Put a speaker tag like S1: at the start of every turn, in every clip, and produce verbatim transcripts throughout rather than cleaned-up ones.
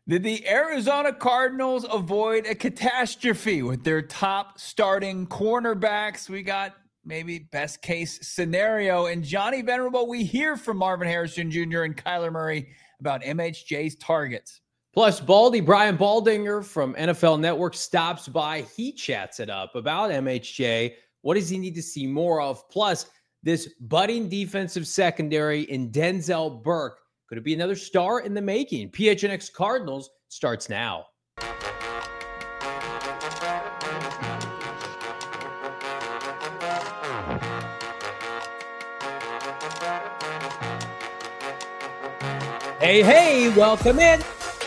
S1: Did the Arizona Cardinals avoid a catastrophe with their top starting cornerbacks? We got maybe best case scenario. And Johnny Venerable, we hear from Marvin Harrison Junior and Kyler Murray about M H J's targets.
S2: Plus, Baldy, Brian Baldinger from N F L Network stops by. He chats it up about M H J. What does he need to see more of? Plus, this budding defensive secondary in Denzel Burke. Could it be another star in the making? P H N X Cardinals starts now. Hey, hey, welcome in.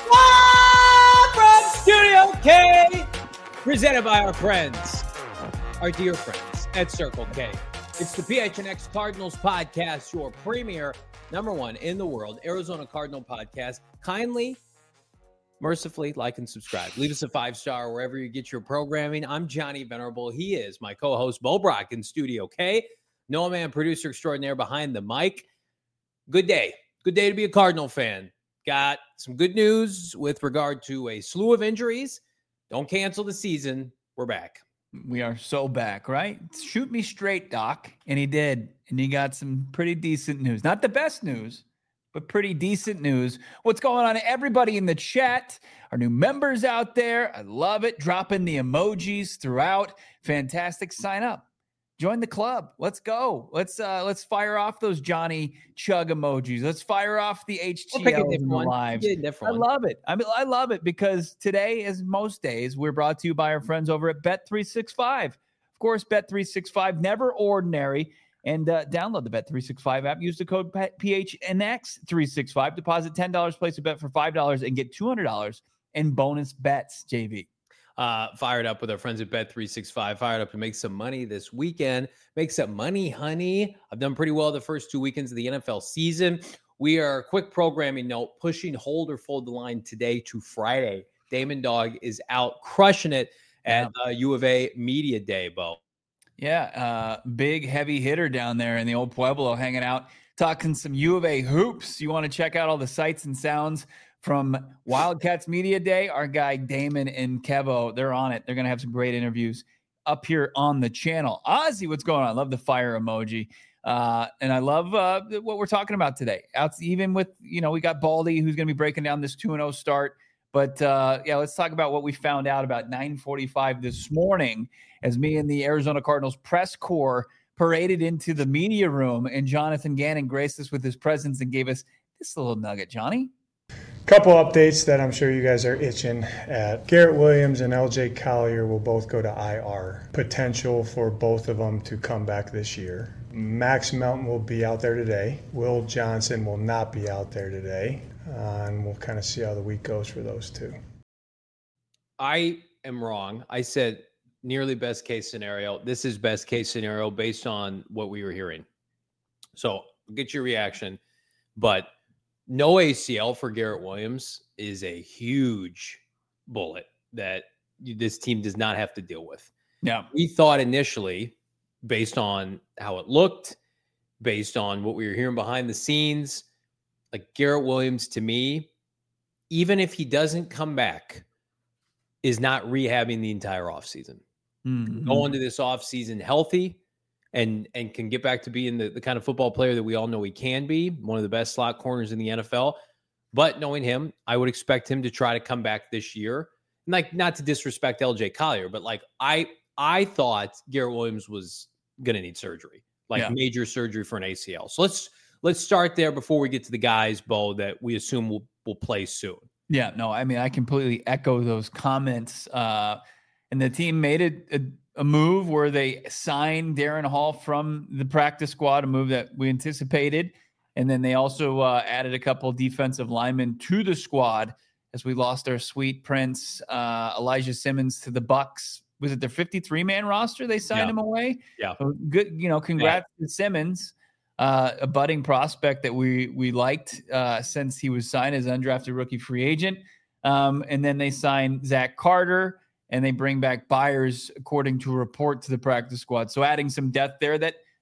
S2: Live from Studio K, presented by our friends, our dear friends at Circle K. It's the P H N X Cardinals podcast, your premier, number one in the world, Arizona Cardinal podcast. Kindly, mercifully, like and subscribe. Leave us a five-star wherever you get your programming. I'm Johnny Venerable. He is my co-host, Bo Brock, in Studio K. Noah Man, producer extraordinaire behind the mic. Good day. Good day to be a Cardinal fan. Got some good news with regard to a slew of injuries. Don't cancel the season. We're back.
S1: We are so back, right? Shoot me straight, Doc. And he did. And he got some pretty decent news. Not the best news, but pretty decent news. What's going on, everybody in the chat? Our new members out there. I love it. Dropping the emojis throughout. Fantastic. Sign up. Join the club. Let's go. Let's uh, let's fire off those Johnny Chug emojis. Let's fire off the H T L in the lives. I love it. I mean, I love it because today, as most days, we're brought to you by our friends over at Bet three sixty-five. Of course, Bet three sixty-five, never ordinary. And uh, download the Bet three sixty-five app. Use the code P H N X three sixty-five. Deposit ten dollars, place a bet for five dollars, and get two hundred dollars in bonus bets, J V.
S2: Uh, fired up with our friends at Bet three sixty-five, fired up to make some money this weekend. Make some money, honey. I've done pretty well the first two weekends of the N F L season. We are, quick programming note, pushing hold or fold the line today to Friday. Damon Dog is out crushing it at uh, U of A Media Day, Bo.
S1: Yeah, uh, big heavy hitter down there in the old Pueblo, hanging out, talking some U of A hoops. You want to check out all the sights and sounds from Wildcats Media Day? Our guy Damon and Kevo, they're on it. They're going to have some great interviews up here on the channel. Ozzy, what's going on? I love the fire emoji. Uh, and I love uh, what we're talking about today. Out, even with, you know, we got Baldy, who's going to be breaking down this two and oh start. But, uh, yeah, let's talk about what we found out about nine forty-five this morning as me and the Arizona Cardinals press corps paraded into the media room, and Jonathan Gannon graced us with his presence and gave us this little nugget. Johnny?
S3: Couple updates that I'm sure you guys are itching at. Garrett Williams and L J Collier will both go to I R. Potential for both of them to come back this year. Max Melton will be out there today. Will Johnson will not be out there today. Uh, and we'll kind of see how the week goes for those two.
S2: I am wrong. I said nearly best case scenario. This is best case scenario based on what we were hearing. So get your reaction. But no A C L for Garrett Williams is a huge bullet that this team does not have to deal with.
S1: Yeah.
S2: We thought initially, based on how it looked, based on what we were hearing behind the scenes, like Garrett Williams, to me, even if he doesn't come back, is not rehabbing the entire offseason. Mm-hmm. Go into this offseason healthy and and can get back to being the, the kind of football player that we all know he can be, one of the best slot corners in the N F L. But knowing him, I would expect him to try to come back this year. And like, not to disrespect L J Collier, but like I I thought Garrett Williams was going to need surgery, like yeah. major surgery for an A C L. So let's let's start there before we get to the guys, Bo, that we assume will will play soon.
S1: Yeah, no, I mean, I completely echo those comments. Uh, and the team made it a, a move where they signed Darren Hall from the practice squad, a move that we anticipated. And then they also uh, added a couple defensive linemen to the squad as we lost our sweet prince, uh, Elijah Simmons, to the Bucks. Was it their fifty-three man roster? They signed yeah. him away.
S2: Yeah.
S1: So good. You know, congrats yeah. to Simmons, uh, a budding prospect that we, we liked uh, since he was signed as undrafted rookie free agent. Um, and then they signed Zach Carter, and they bring back Byers, according to a report to the practice squad. So adding some depth there that,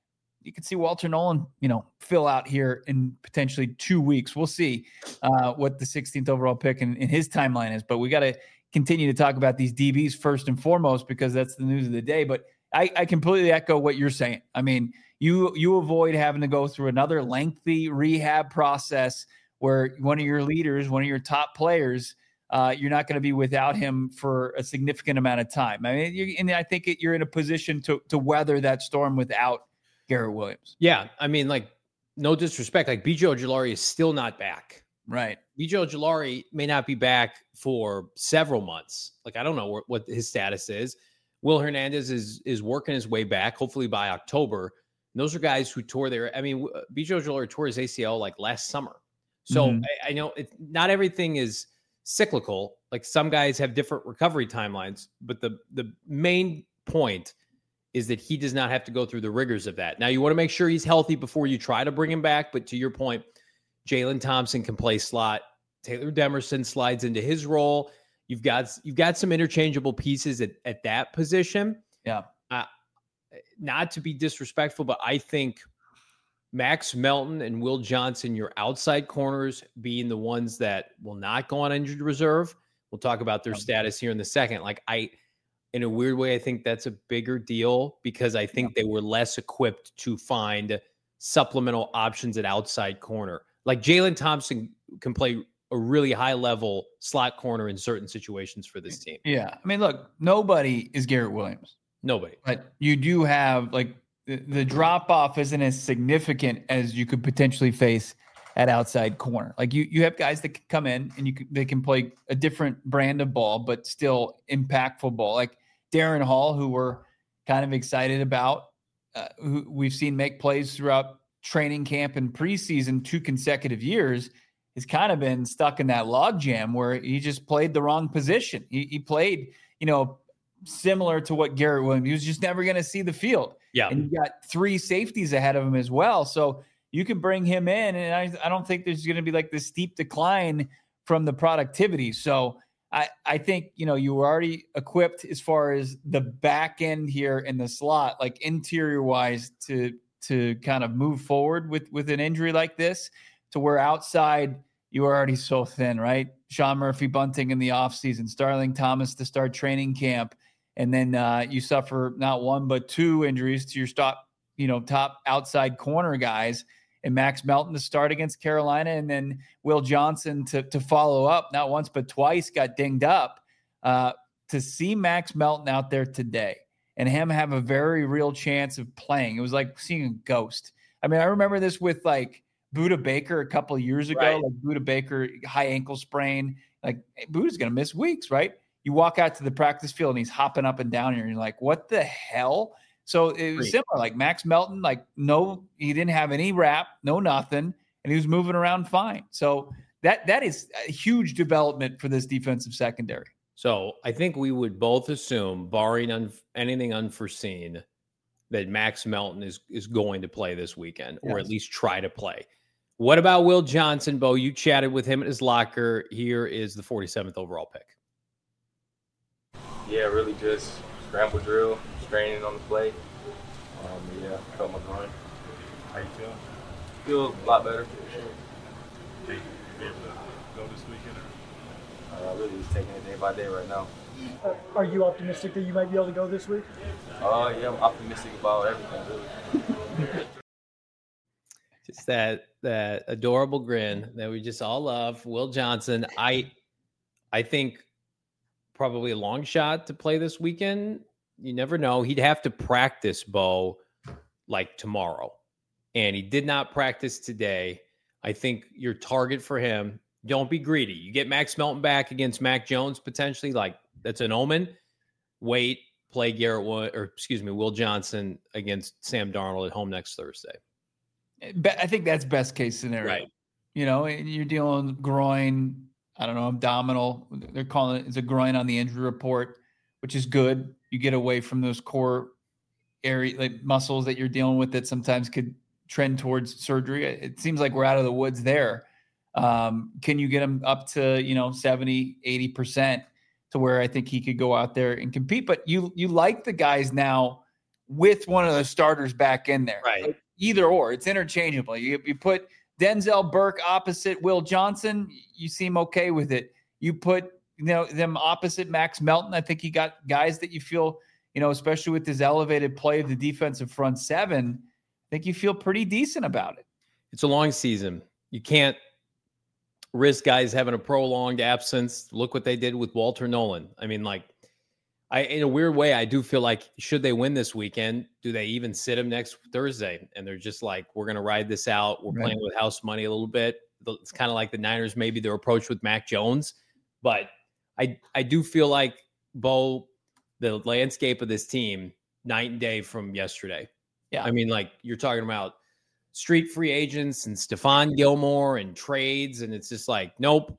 S1: you could see Walter Nolan, you know, fill out here in potentially two weeks. We'll see uh, what the sixteenth overall pick in, in his timeline is, but we got to continue to talk about these D Bs first and foremost, because that's the news of the day. But I, I completely echo what you're saying. I mean, you, you avoid having to go through another lengthy rehab process where one of your leaders, one of your top players, uh, you're not going to be without him for a significant amount of time. I mean, you, and I think it, you're in a position to, to weather that storm without Garrett Williams.
S2: Yeah. I mean, like, no disrespect, like B J Ojulari is still not back.
S1: Right.
S2: B J Ojulari may not be back for several months. Like, I don't know what, what his status is. Will Hernandez is is working his way back, hopefully by October. And those are guys who tore their, I mean, B J Ojulari tore his A C L like last summer. So mm-hmm. I, I know it, not everything is cyclical. Like, some guys have different recovery timelines, but the the main point is that he does not have to go through the rigors of that. Now, you want to make sure he's healthy before you try to bring him back. But to your point, Jalen Thompson can play slot. Taylor Demerson slides into his role. You've got you've got some interchangeable pieces at, at that position.
S1: Yeah.
S2: Uh, not to be disrespectful, but I think Max Melton and Will Johnson, your outside corners, being the ones that will not go on injured reserve. We'll talk about their status here in the second. Like, I, in a weird way, I think that's a bigger deal because I think yeah. they were less equipped to find supplemental options at outside corner. Like, Jalen Thompson can play a really high level slot corner in certain situations for this team.
S1: Yeah. I mean, look, nobody is Garrett Williams.
S2: Nobody.
S1: But you do have, like, the, the drop off isn't as significant as you could potentially face at outside corner. Like, you, you have guys that can come in and you can, they can play a different brand of ball, but still impactful ball. Like Darren Hall, who we're kind of excited about, uh, who we've seen make plays throughout training camp and preseason two consecutive years, has kind of been stuck in that log jam where he just played the wrong position. He, he played, you know, similar to what Garrett Williams, he was just never going to see the field.
S2: Yeah.
S1: And you got three safeties ahead of him as well. So you can bring him in, and I, I don't think there's going to be like this steep decline from the productivity. So I, I think, you know, you were already equipped as far as the back end here in the slot, like interior wise, to, to kind of move forward with, with an injury like this, to where outside you are already so thin, right? Sean Murphy Bunting in the offseason, Starling Thomas to start training camp. And then uh, you suffer not one, but two injuries to your top, you know, top outside corner guys, and Max Melton to start against Carolina. And then Will Johnson to, to follow up, not once, but twice got dinged up. Uh, to see Max Melton out there today and him have a very real chance of playing, it was like seeing a ghost. I mean, I remember this with like Budda Baker a couple of years ago,
S2: right.
S1: like Budda Baker, high ankle sprain, like hey, Budda's going to miss weeks, right? You walk out to the practice field and he's hopping up and down here and you're like, what the hell? So it was similar, like Max Melton, like no, he didn't have any wrap, no nothing, and he was moving around fine. So that that is a huge development for this defensive secondary.
S2: So I think we would both assume, barring un- anything unforeseen, that Max Melton is is going to play this weekend, or yes. at least try to play. What about Will Johnson, Bo? You chatted with him at his locker. Here is the forty-seventh overall pick.
S4: Yeah, really just scramble drill, straining on the plate. Um, yeah, felt my groin.
S5: How you feel?
S4: Feel a lot better.
S5: Be able to go this weekend? Or?
S4: Uh, really just taking it day by day right now.
S6: Uh, are you optimistic that you might be able to go this week?
S4: Uh, yeah, I'm optimistic about everything, really.
S2: Just that that adorable grin that we just all love. Will Johnson, I I think probably a long shot to play this weekend. You never know. He'd have to practice, Bo, like tomorrow. And he did not practice today. I think your target for him, don't be greedy. You get Max Melton back against Mac Jones potentially, like that's an omen. Wait, play Garrett Wood, or excuse me, Will Johnson against Sam Darnold at home next Thursday.
S1: I think that's best case scenario.
S2: Right.
S1: You know, you're dealing with groin, I don't know, abdominal. They're calling it, it's a groin on the injury report, which is good. You get away from those core area, like muscles that you're dealing with that sometimes could trend towards surgery. It seems like we're out of the woods there. Um, can you get him up to, you know, seventy, eighty percent to where I think he could go out there and compete? But you, you like the guys now with one of the starters back in there.
S2: Right.
S1: either or. It's interchangeable. You, you put Denzel Burke opposite Will Johnson, you seem okay with it. You put you know them opposite Max Melton. I think you got guys that you feel, you know, especially with this elevated play of the defensive front seven, I think you feel pretty decent about it.
S2: It's a long season. You can't risk guys having a prolonged absence. Look what they did with Walter Nolan. I mean, like, I in a weird way, I do feel like should they win this weekend, do they even sit him next Thursday? And they're just like, we're going to ride this out. We're right. playing with house money a little bit. It's kind of like the Niners, maybe their approach with Mac Jones. But I I do feel like, Bo, the landscape of this team, night and day from yesterday.
S1: Yeah.
S2: I mean, like, you're talking about street free agents and Stephon Gilmore and trades. And it's just like, nope.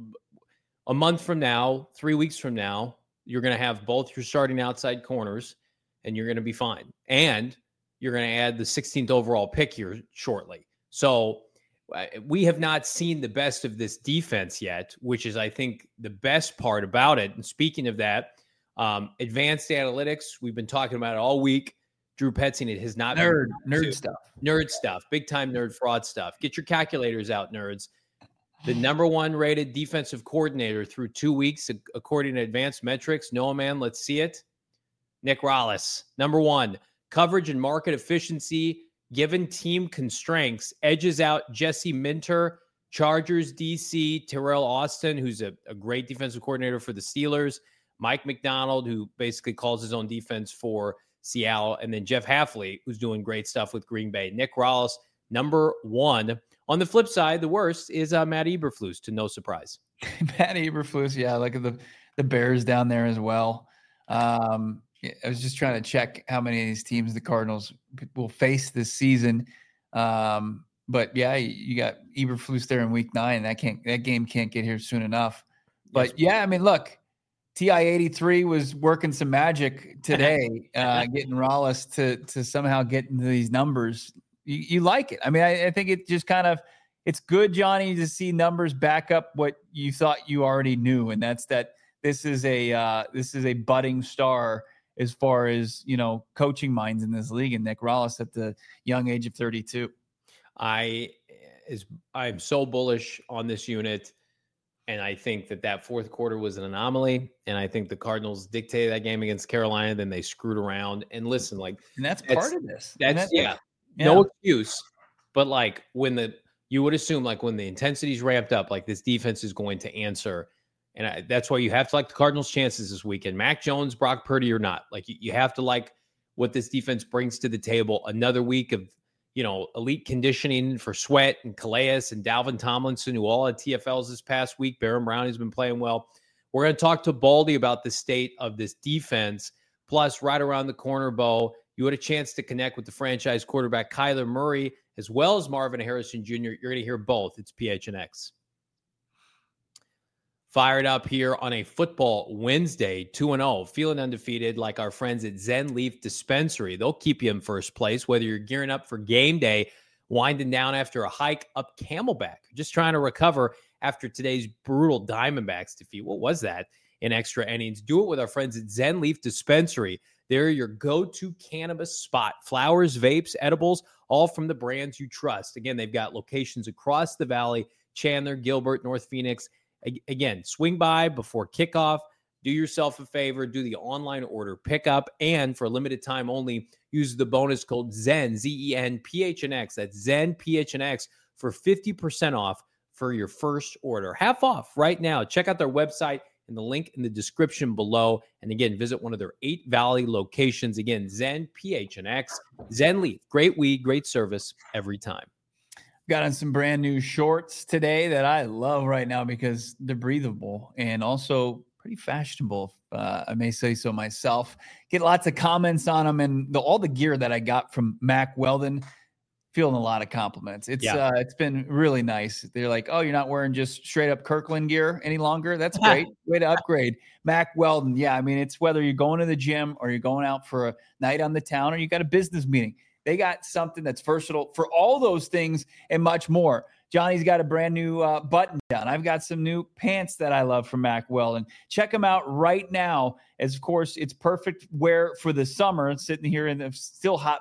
S2: A month from now, three weeks from now, you're going to have both your starting outside corners and you're going to be fine. And you're going to add the sixteenth overall pick here shortly. So uh, we have not seen the best of this defense yet, which is, I think, the best part about it. And speaking of that, um, advanced analytics, we've been talking about it all week. Drew Petzing, it has not
S1: nerd,
S2: been
S1: nerd
S2: to,
S1: stuff,
S2: nerd stuff, big time nerd fraud stuff. Get your calculators out, nerds. The number one rated defensive coordinator through two weeks, according to advanced metrics. Noah, man, let's see it. Nick Rallis, number one, coverage and market efficiency, given team constraints, edges out Jesse Minter, Chargers D C, Terrell Austin, who's a, a great defensive coordinator for the Steelers, Mike McDonald, who basically calls his own defense for Seattle, and then Jeff Hafley, who's doing great stuff with Green Bay. Nick Rallis, number one. On the flip side, the worst is uh, Matt Eberflus, to no surprise.
S1: Matt Eberflus, yeah, look at the, the Bears down there as well. Um, I was just trying to check how many of these teams the Cardinals will face this season. Um, but, yeah, you got Eberflus there in week nine. That can't that game can't get here soon enough. But, yes, yeah, I mean, look, T I eighty-three was working some magic today, uh, getting Rallis to to somehow get into these numbers. You, you like it. I mean, I, I think it just kind of, it's good, Johnny, to see numbers back up what you thought you already knew. And that's that this is a, uh, this is a budding star as far as, you know, coaching minds in this league. And Nick Rallis at the young age of thirty-two.
S2: I is, I'm so bullish on this unit. And I think that that fourth quarter was an anomaly. And I think the Cardinals dictated that game against Carolina. Then they screwed around. And listen, like,
S1: and that's, that's part of this.
S2: That's,
S1: that's
S2: yeah. Yeah. No excuse, but like when the you would assume like when the intensity's ramped up, like this defense is going to answer, and I, that's why you have to like the Cardinals' chances this weekend. Mac Jones, Brock Purdy, or not, like you, you have to like what this defense brings to the table. Another week of you know elite conditioning for Sweat and Calais and Dalvin Tomlinson, who all had T F Ls this past week. Baron Brown has been playing well. We're going to talk to Baldy about the state of this defense. Plus, right around the corner, Bo, you had a chance to connect with the franchise quarterback, Kyler Murray, as well as Marvin Harrison Junior You're going to hear both. It's P H N X. Fired up here on a football Wednesday, two and oh, feeling undefeated like our friends at Zen Leaf Dispensary. They'll keep you in first place, whether you're gearing up for game day, winding down after a hike up Camelback, just trying to recover after today's brutal Diamondbacks defeat. What was that? In extra innings. Do it with our friends at Zen Leaf Dispensary. They're your go-to cannabis spot. Flowers, vapes, edibles, all from the brands you trust. Again, they've got locations across the valley, Chandler, Gilbert, North Phoenix. Again, swing by before kickoff. Do yourself a favor. Do the online order pickup. And for a limited time only, use the bonus code ZEN, Z E N P H N X. That's ZEN P H N X for fifty percent off for your first order. Half off right now. Check out their website and the link in the description below. And again, visit one of their eight Valley locations. Again, Zen P H N X, Zen Leaf. Great weed, great service every time.
S1: Got on some brand new shorts today that I love right now because they're breathable and also pretty fashionable. Uh, I may say so myself. Get lots of comments on them, and the, all the gear that I got from Mack Weldon, feeling a lot of compliments. It's yeah. uh, it's been really nice. They're like, oh, you're not wearing just straight up Kirkland gear any longer. That's great. Way to upgrade. Mack Weldon. Yeah, I mean, it's whether you're going to the gym or you're going out for a night on the town or you got a business meeting. They got something that's versatile for all those things and much more. Johnny's got a brand new uh, button down. I've got some new pants that I love from Mack Weldon. Check them out right now. As of course, it's perfect wear for the summer. It's sitting here in the still hot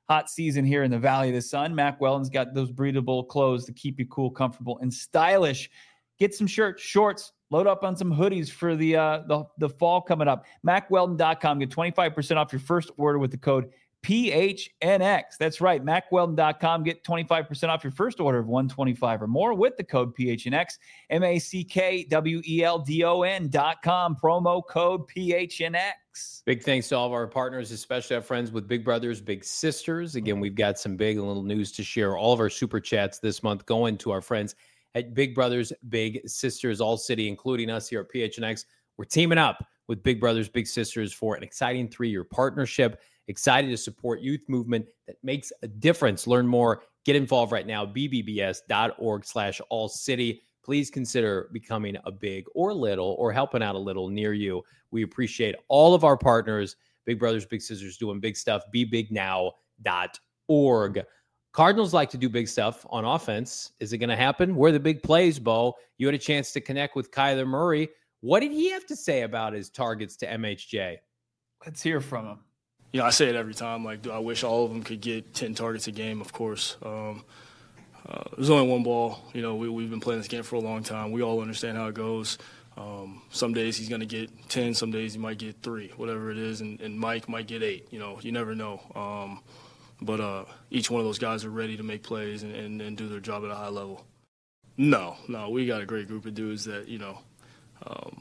S1: hot season here in the Valley of the Sun. Mack Weldon's got those breathable clothes to keep you cool, comfortable, and stylish. Get some shirts, shorts, load up on some hoodies for the uh, the, the fall coming up. mack weldon dot com. Get twenty-five percent off your first order with the code P H N X. That's right, mack weldon dot com. Get twenty-five percent off your first order of one hundred twenty-five dollars or more with the code P H N X. M A C K W E L D O N dot com. Promo code P H N X.
S2: Big thanks to all of our partners, especially our friends with Big Brothers, Big Sisters. Again, we've got some big and little news to share. All of our super chats this month going to our friends at Big Brothers, Big Sisters, All City, including us here at P H N X. We're teaming up with Big Brothers, Big Sisters for an exciting three-year partnership. Excited to support youth movement that makes a difference. Learn more. Get involved right now. b b b s dot org slash all city. Please consider becoming a big or little or helping out a little near you. We appreciate all of our partners. Big Brothers, Big Sisters doing big stuff. be big now dot org. Cardinals like to do big stuff on offense. Is it going to happen? Where are the big plays, Bo? You had a chance to connect with Kyler Murray. What did he have to say about his targets to M H J?
S1: Let's hear from him.
S7: You know, I say it every time. Like, I wish all of them could get ten targets a game, of course. Um, uh, there's only one ball. You know, we, we've been playing this game for a long time. We all understand how it goes. Um, some days he's going to get ten. Some days he might get three, whatever it is. And, and Mike might get eight. You know, you never know. Um, but uh, each one of those guys are ready to make plays and, and, and do their job at a high level. No, no, we got a great group of dudes that, you know, um,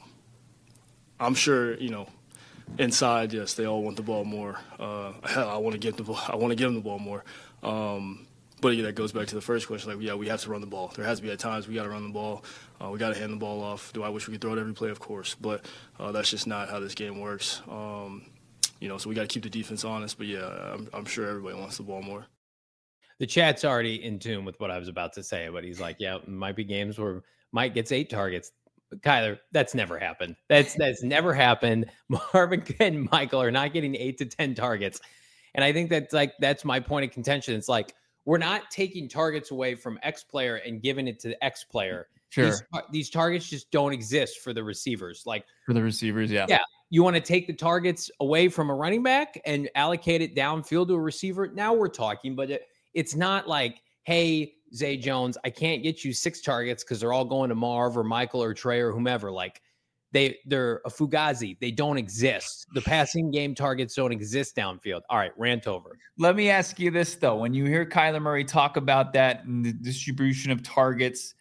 S7: I'm sure, you know, inside, yes, they all want the ball more. Uh, hell, I want to give the ball. I want to give them the ball more. Um, but yeah, that goes back to the first question. Like, yeah, we have to run the ball. There has to be at times we got to run the ball. Uh, we got to hand the ball off. Do I wish we could throw it every play? Of course, but uh, that's just not how this game works. Um, you know, so we got to keep the defense honest. But yeah, I'm, I'm sure everybody wants the ball more.
S2: The chat's already in tune with what I was about to say, but he's like, yeah, it might be games where Mike gets eight targets. Kyler, that's never happened. That's that's never happened. Marvin and Michael are not getting eight to ten targets. And I think that's like that's my point of contention. It's like we're not taking targets away from X player and giving it to the X player.
S1: Sure.
S2: These, these targets just don't exist for the receivers. Like
S1: For the receivers, yeah.
S2: Yeah. You want to take the targets away from a running back and allocate it downfield to a receiver. Now we're talking, but it, it's not like, hey, Zay Jones, I can't get you six targets because they're all going to Marv or Michael or Trey or whomever. Like they, they're a Fugazi. They don't exist. The passing game targets don't exist downfield. All right, rant over.
S1: Let me ask you this, though. When you hear Kyler Murray talk about that and the distribution of targets,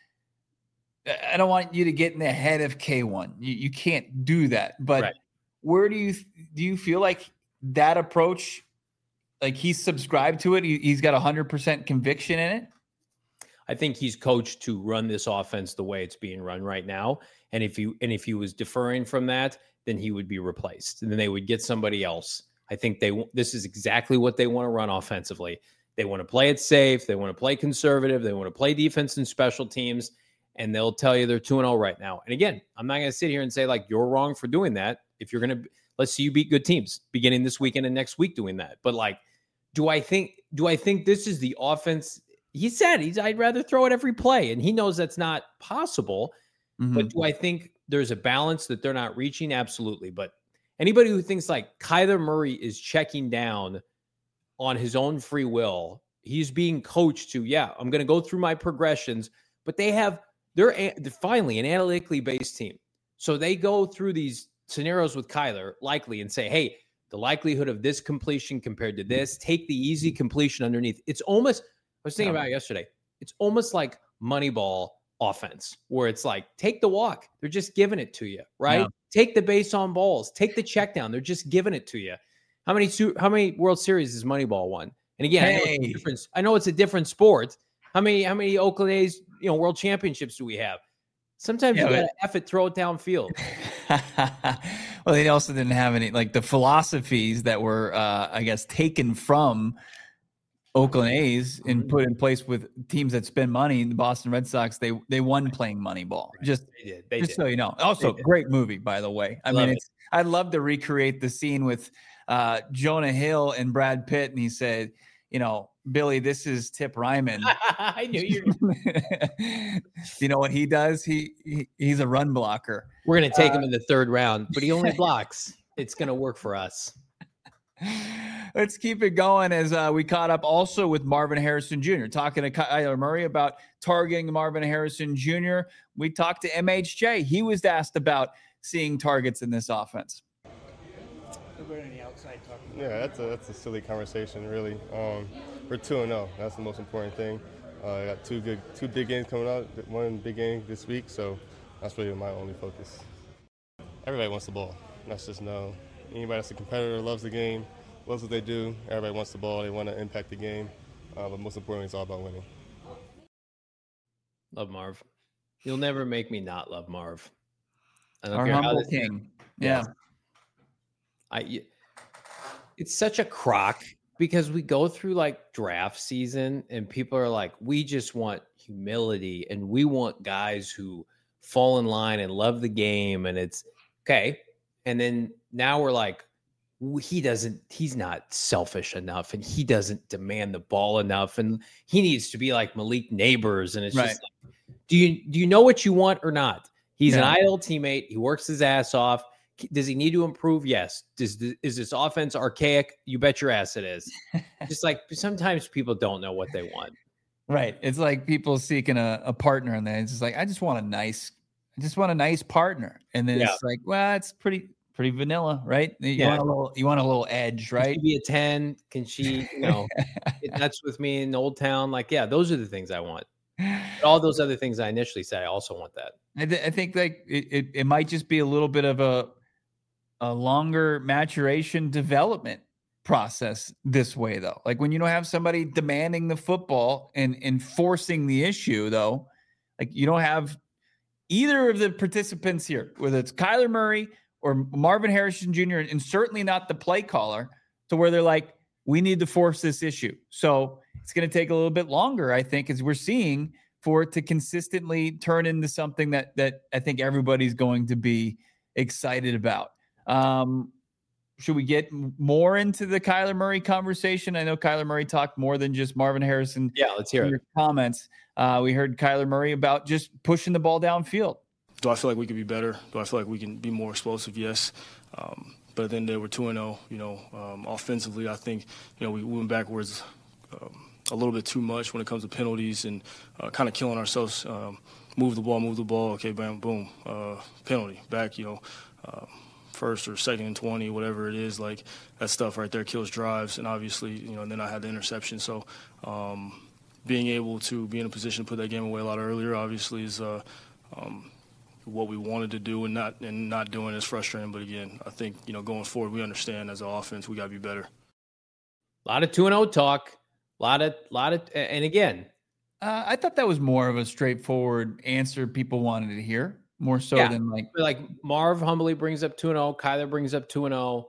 S1: I don't want you to get in the head of K one. You, you can't do that. But
S2: Right.
S1: where do you do you feel like that approach, like he's subscribed to it, he, he's got one hundred percent conviction in it?
S2: I think he's coached to run this offense the way it's being run right now. And if you and if he was deferring from that, then he would be replaced. And then they would get somebody else. I think they this is exactly what they want to run offensively. They want to play it safe. They want to play conservative. They want to play defense and special teams. And they'll tell you they're two and oh right now. And again, I'm not going to sit here and say, like, you're wrong for doing that. If you're going to, let's see you beat good teams beginning this weekend and next week doing that. But, like, do I think, do I think this is the offense? He said he's, I'd rather throw it every play. And he knows that's not possible. Mm-hmm. But do I think there's a balance that they're not reaching? Absolutely. But anybody who thinks like Kyler Murray is checking down on his own free will, he's being coached to, yeah, I'm going to go through my progressions, but they have, they're, they're finally an analytically based team. So they go through these scenarios with Kyler likely and say, hey, the likelihood of this completion compared to this, take the easy completion underneath. It's almost, I was thinking about it yesterday. It's almost like Moneyball offense, where it's like, take the walk. They're just giving it to you, right? Yeah. Take the base on balls. Take the check down. They're just giving it to you. How many how many World Series has Moneyball won? And again, hey. I, know it's a different, I know it's a different sport. How many how many Oakland A's, you know, World Championships do we have? Sometimes yeah, you got to F it, throw it downfield.
S1: Well, they also didn't have any, like the philosophies that were, uh, I guess, taken from Oakland A's and put in place with teams that spend money. The Boston Red Sox, they they won playing Moneyball. Right. Just,
S2: they did. They
S1: just
S2: did.
S1: so you know. Also, great movie, by the way. I love mean, it's, it. I'd love to recreate the scene with uh, Jonah Hill and Brad Pitt, and he said, you know, Billy, this is Tip Ryman.
S2: I knew you.
S1: You know what he does? He, he he's a run blocker.
S2: We're gonna take uh, him in the third round, but he only blocks. It's gonna work for us.
S1: Let's keep it going as uh, we caught up also with Marvin Harrison Junior Talking to Kyler Murray about targeting Marvin Harrison Junior We talked to M H J. He was asked about seeing targets in this offense.
S8: Yeah, that's a that's a silly conversation, really. Um, we're two and zero. That's the most important thing. Uh, I got two good, two big games coming out. One big game this week, so that's really my only focus. Everybody wants the ball. That's just no. Anybody that's a competitor loves the game, loves what they do. Everybody wants the ball. They want to impact the game, uh, but most importantly, it's all about winning.
S2: Love Marv. You'll never make me not love Marv. I don't
S1: Our
S2: care how
S1: humble
S2: this,
S1: king. Yeah.
S2: I. It's such a crock because we go through like draft season and people are like, we just want humility and we want guys who fall in line and love the game. And it's okay. And then now we're like, he doesn't, he's not selfish enough and he doesn't demand the ball enough. And he needs to be like Malik Neighbors. And it's
S1: Right.
S2: just like, do you, do you know what you want or not? He's
S1: Yeah.
S2: an ideal teammate. He works his ass off. Does he need to improve? Yes. Does the, is this offense archaic? You bet your ass it is. Just like sometimes people don't know what they want.
S1: Right. It's like people seeking a, a partner and then it's just like, I just want a nice, I just want a nice partner. And then
S2: Yeah.
S1: it's like, well, it's pretty, pretty vanilla, right? You
S2: Yeah.
S1: want a little, you want a little edge,
S2: Can
S1: right?
S2: she be a ten? Can she, you know, get nuts with me in Old Town? Like, yeah, those are the things I want. But all those other things I initially said, I also want that.
S1: I, th- I think like it, it, it might just be a little bit of a, a longer maturation development process this way though. Like when you don't have somebody demanding the football and enforcing the issue though, like you don't have either of the participants here, whether it's Kyler Murray or Marvin Harrison Junior, and certainly not the play caller, to where they're like, we need to force this issue. So it's going to take a little bit longer, I think, as we're seeing, for it to consistently turn into something that that I think everybody's going to be excited about. Um, should we get more into the Kyler Murray conversation? I know Kyler Murray talked more than just Marvin Harrison.
S2: Yeah, let's hear
S1: in
S2: it.
S1: your comments. Uh, we heard Kyler Murray about just pushing the ball downfield.
S7: Do I feel like we could be better? Do I feel like we can be more explosive? Yes. Um, but then they were two and oh, you know, um, offensively, I think, you know, we went backwards um, a little bit too much when it comes to penalties and uh, kind of killing ourselves. Um, move the ball, move the ball. Okay, bam, boom, uh, penalty back, you know, uh, first or second and twenty, whatever it is. Like that stuff right there kills drives. And obviously, you know, and then I had the interception. So um, being able to be in a position to put that game away a lot earlier, obviously, is uh, um, what we wanted to do, and not and not doing is frustrating. But again, I think, you know, going forward, we understand as an offense we got to be better.
S2: A lot of two and oh talk. A lot of, lot of, and again,
S1: Uh, I thought that was more of a straightforward answer people wanted to hear, more so
S2: Yeah.
S1: than like,
S2: like Marv humbly brings up two and oh. Kyler brings up two and oh.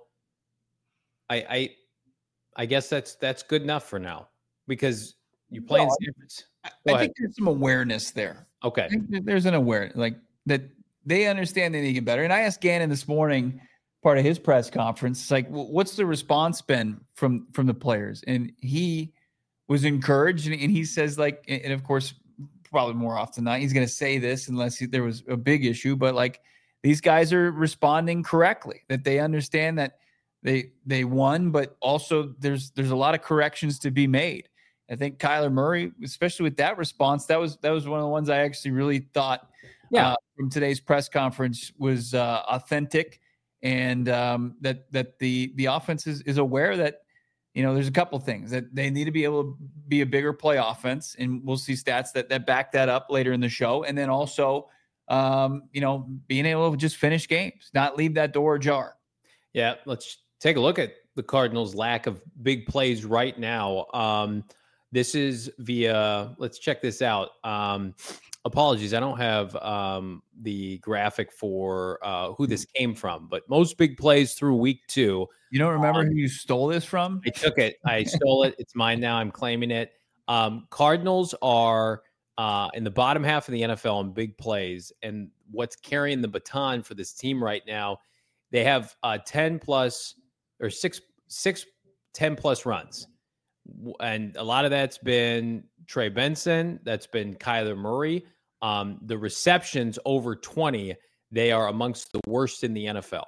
S2: I, I, I guess that's that's good enough for now because you play in
S1: Well,
S2: San Francisco.
S1: I,
S2: Go
S1: I
S2: ahead.
S1: think there's some awareness there.
S2: Okay.
S1: I think that there's an awareness, like that they understand they need to get better. And I asked Gannon this morning, part of his press conference, like, "Wh- what's the response been from from the players?" And he was encouraged, and, and he says, like, and and of course, probably more often than not, he's going to say this unless he, there was a big issue, but like these guys are responding correctly, that they understand that they they won, but also there's there's a lot of corrections to be made. I think Kyler Murray, especially with that response, that was that was one of the ones I actually really thought
S2: Yeah.
S1: uh, from today's press conference was uh, authentic, and um, that that the the offense is, is aware that, you know, there's a couple things that they need to be able to be a bigger play offense, and we'll see stats that that back that up later in the show, and then also, um, you know, being able to just finish games, not leave that door ajar.
S2: Yeah, let's take a look at the Cardinals' lack of big plays right now. Um, this is via, let's check this out. Um, apologies, I don't have um, the graphic for uh, who this came from, but most big plays through week two.
S1: You don't remember who you stole this from?
S2: I took it. I stole it. It's mine now. I'm claiming it. Um, Cardinals are uh, in the bottom half of the N F L in big plays, and what's carrying the baton for this team right now, they have uh, ten plus or six, six, ten plus runs. W- And a lot of that's been Trey Benson. That's been Kyler Murray. Um, the receptions over twenty, they are amongst the worst in the N F L.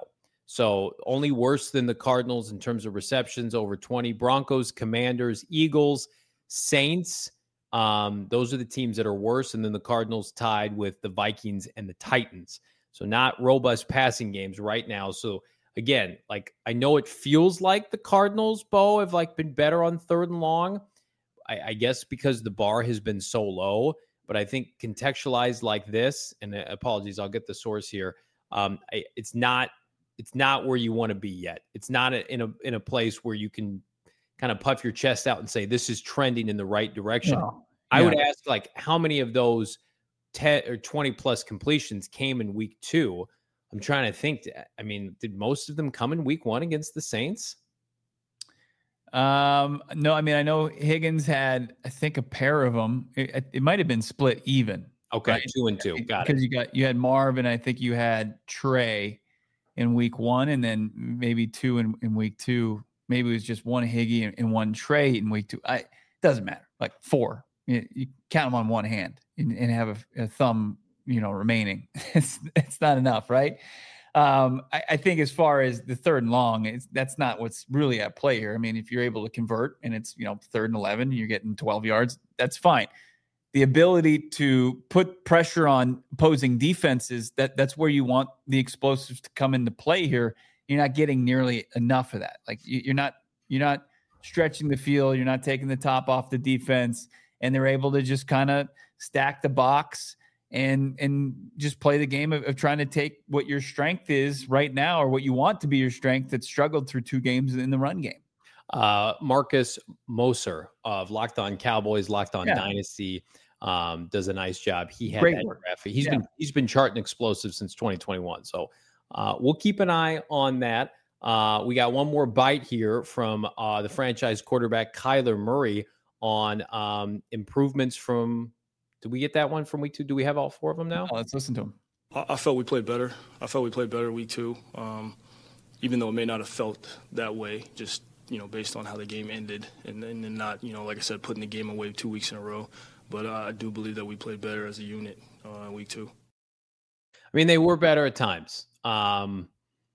S2: So only worse than the Cardinals in terms of receptions, over twenty. Broncos, Commanders, Eagles, Saints. Um, those are the teams that are worse. And then the Cardinals tied with the Vikings and the Titans. So not robust passing games right now. So again, like I know it feels like the Cardinals, Bo, have like been better on third and long. I, I guess because the bar has been so low. But I think contextualized like this, and apologies, I'll get the source here. Um, I, it's not, it's not where you want to be yet. It's not a, in a in a place where you can kind of puff your chest out and say this is trending in the right direction.
S1: No.
S2: I
S1: Yeah.
S2: would ask, like, how many of those ten or twenty plus completions came in week two? I'm trying to think. I mean, did most of them come in week one against the Saints?
S1: Um, no, I mean, I know Higgins had, I think, a pair of them. It, it might have been split even.
S2: Okay,
S1: right?
S2: two and two. Got
S1: Because
S2: it.
S1: you got you had Marv, and I think you had Trey in week one, and then maybe two in, in week two. Maybe it was just one Higgy and, and one Trey in week two. I doesn't matter. Like four, you, you count them on one hand and, and have a, a thumb, you know, remaining. it's it's not enough, right? Um, I, I think as far as the third and long, it's, that's not what's really at play here. I mean, if you're able to convert and it's, you know, third and eleven, you're getting twelve yards, that's fine. The ability to put pressure on opposing defenses, that that's where you want the explosives to come into play here. You're not getting nearly enough of that. Like you, you're not, you're not stretching the field. You're not taking the top off the defense, and they're able to just kind of stack the box and and just play the game of, of trying to take what your strength is right now, or what you want to be your strength that struggled through two games in the run game.
S2: Uh, Marcus Moser of Locked On Cowboys, Locked On
S1: Yeah.
S2: Dynasty, um, does a nice job. He had
S1: Great
S2: that
S1: work.
S2: graphic. He's
S1: Yeah.
S2: been he's been charting explosive since twenty twenty-one. So uh, we'll keep an eye on that. Uh, we got one more bite here from uh, the franchise quarterback Kyler Murray on um, improvements from. Did we get that one from week two? Do we have all four of them now?
S1: Oh, let's listen to him.
S7: I, I felt we played better. I felt we played better week two, um, even though it may not have felt that way, just, you know, based on how the game ended and then and not, you know, like I said, putting the game away two weeks in a row. But uh, I do believe that we played better as a unit uh, week two.
S2: I mean, they were better at times, um,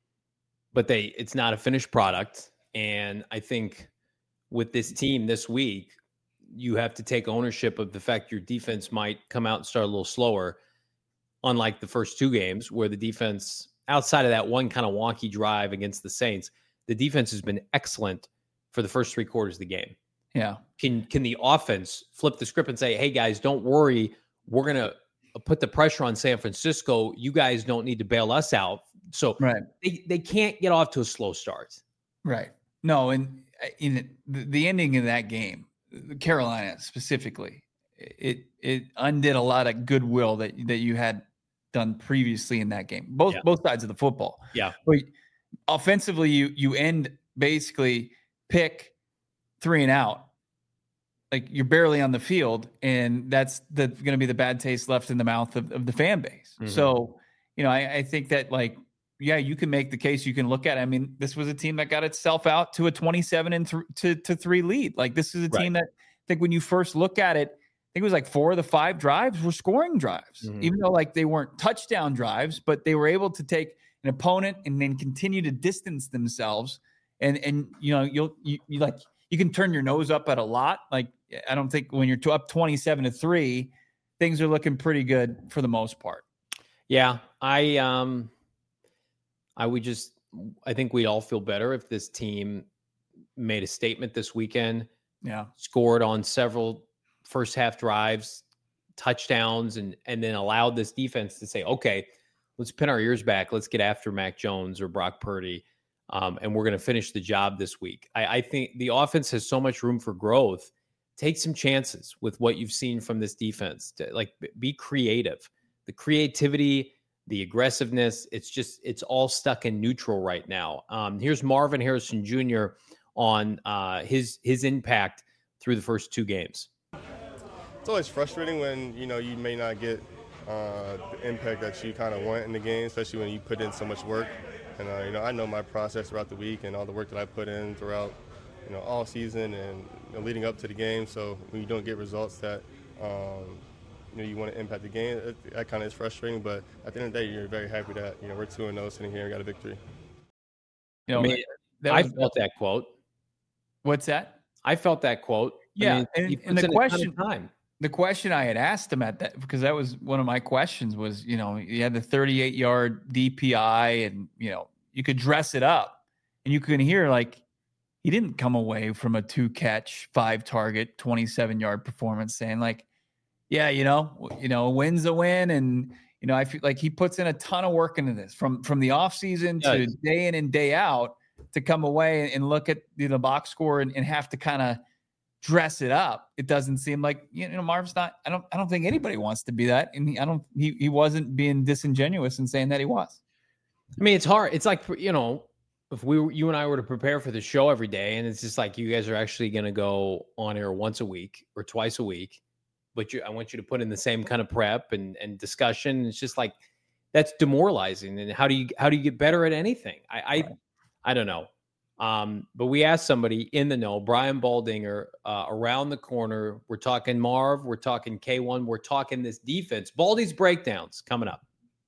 S2: but they it's not a finished product. And I think with this team this week, you have to take ownership of the fact your defense might come out and start a little slower, unlike the first two games where the defense, outside of that one kind of wonky drive against the Saints, the defense has been excellent for the first three quarters of the game.
S1: Yeah.
S2: Can can the offense flip the script and say, hey, guys, don't worry. We're going to put the pressure on San Francisco. You guys don't need to bail us out. So
S1: Right.
S2: they, they can't get off to a slow start.
S1: Right. No, and in the, the ending of that game, Carolina specifically, it it undid a lot of goodwill that that you had done previously in that game. Both
S2: Yeah.
S1: both sides of the football.
S2: Yeah.
S1: But offensively, you you end basically pick three and out. Like you're barely on the field, and that's the going to be the bad taste left in the mouth of, of the fan base.
S2: Mhm.
S1: So, you know, I, I think that like, yeah, you can make the case. You can look at it. I mean, this was a team that got itself out to a twenty-seven and th- to to three lead. Like this is a team that I think when you first look at it, I think it was like four of the five drives were scoring drives,
S2: Mhm.
S1: even though like they weren't touchdown drives, but they were able to take an opponent and then continue to distance themselves. And and you know you'll you, you like you can turn your nose up at a lot. Like I don't think when you're to up twenty-seven to three, things are looking pretty good for the most part.
S2: Yeah, I um, I would just, I think we'd all feel better if this team made a statement this weekend,
S1: Yeah.
S2: scored on several first half drives, touchdowns, and and then allowed this defense to say, okay, let's pin our ears back, let's get after Mac Jones or Brock Purdy, um, and we're going to finish the job this week. I, I think the offense has so much room for growth. Take some chances with what you've seen from this defense. To, like, be creative. The creativity, the aggressiveness, it's just, it's all stuck in neutral right now. Um, here's Marvin Harrison Junior on uh, his his impact through the first two games.
S8: It's always frustrating when, you know, you may not get uh, the impact that you kind of want in the game, especially when you put in so much work. And, uh, you know, I know my process throughout the week and all the work that I put in throughout, you know, all season and you know, leading up to the game. So when you don't get results that, um, you know, you want to impact the game, it, that kind of is frustrating. But at the end of the day, you're very happy that, you know, we're two and oh sitting here and got a victory.
S1: You know,
S2: I mean,
S1: that
S2: I
S1: was,
S2: felt that quote.
S1: what's that?
S2: I felt that quote.
S1: Yeah,
S2: I mean,
S1: and,
S2: he
S1: and
S2: puts
S1: the
S2: in a ton of
S1: question,
S2: time.
S1: the question I had asked him at that, because that was one of my questions was, you know, he had the thirty-eight yard D P I and, you know, you could dress it up and you can hear like he didn't come away from a two catch, five target, twenty-seven yard performance saying like, yeah, you know, you know, a win's a win. And, you know, I feel like he puts in a ton of work into this from, from the offseason to day in and day out to come away and look at the, the box score and, and have to kind of dress it up. It doesn't seem like, you know, Marv's not, I don't, I don't think anybody wants to be that. And he, I don't, he, he wasn't being disingenuous in saying that he was.
S2: I mean, it's hard. It's like, you know, if we were, you and I were to prepare for the show every day, and it's just like you guys are actually going to go on air once a week or twice a week, but you, I want you to put in the same kind of prep and, and discussion. It's just like, that's demoralizing. And how do you, how do you get better at anything? I, I, right. I don't know. Um, but we asked somebody in the know, Brian Baldinger, uh, around the corner. We're talking Marv. We're talking K one. We're talking this defense. Baldy's breakdowns coming up.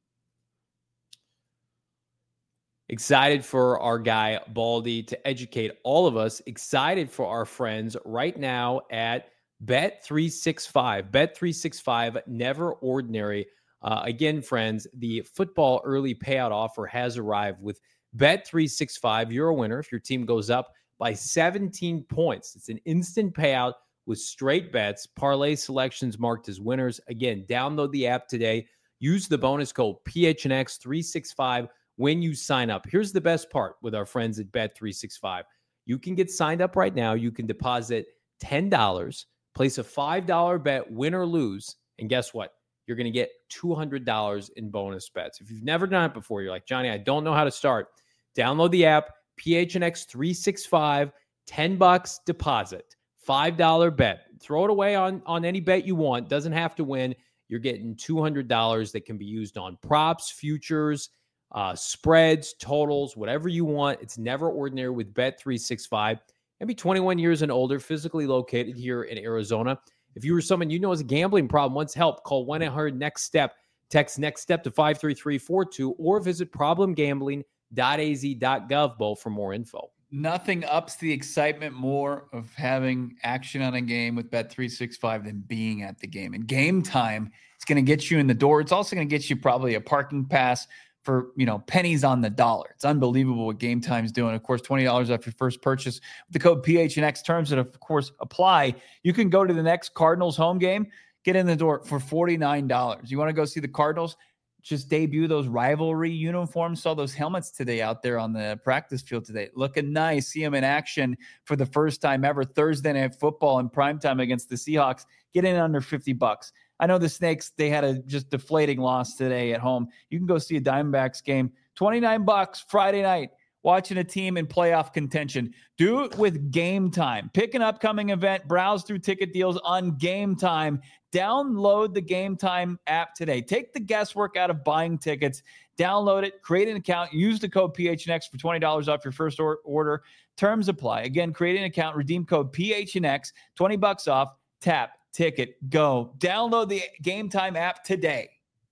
S2: Excited for our guy Baldy to educate all of us. Excited for our friends right now at Bet three sixty-five. Bet three sixty-five, never ordinary. Uh, again, friends, the football early payout offer has arrived with Bet three sixty-five. You're a winner if your team goes up by seventeen points. It's an instant payout with straight bets, parlay selections marked as winners. Again, download the app today. Use the bonus code P H N X three sixty-five when you sign up. Here's the best part with our friends at Bet three sixty-five. You can get signed up right now. You can deposit ten dollars, place a five dollar bet, win or lose, and guess what? You're going to get two hundred dollars in bonus bets. If you've never done it before, you're like, Johnny, I don't know how to start. Download the app, P H N X three sixty-five, ten bucks deposit, five dollar bet. Throw it away on, on any bet you want. Doesn't have to win. You're getting two hundred dollars that can be used on props, futures, uh, spreads, totals, whatever you want. It's never ordinary with Bet three sixty-five. Maybe twenty-one years and older, physically located here in Arizona. If you or someone you know has a gambling problem, wants help, call one eight hundred next step. Text NEXT STEP to five three three four two or visit problem gambling dot a z dot gov, Bo, for more info.
S1: Nothing ups the excitement more of having action on a game with Bet three sixty-five than being at the game. And Game Time is going to get you in the door. It's also going to get you probably a parking pass for, you know, pennies on the dollar. It's unbelievable what Game Time's doing. Of course, twenty dollars off your first purchase with the code P H N X. Terms that, of course, apply. You can go to the next Cardinals home game, get in the door for forty-nine dollars. You want to go see the Cardinals? Just debut those rivalry uniforms. Saw those helmets today out there on the practice field today. Looking nice. See them in action for the first time ever. Thursday Night Football in primetime against the Seahawks. Get in under fifty bucks. I know the Snakes, they had a just deflating loss today at home. You can go see a Diamondbacks game. twenty-nine bucks Friday night. Watching a team in playoff contention. Do it with Game Time. Pick an upcoming event. Browse through ticket deals on Game Time. Download the Game Time app today. Take the guesswork out of buying tickets. Download it. Create an account. Use the code P H N X for twenty dollars off your first or- order. Terms apply. Again, create an account. Redeem code P H N X. twenty bucks off. Tap. Ticket. Go. Download the Game Time app today.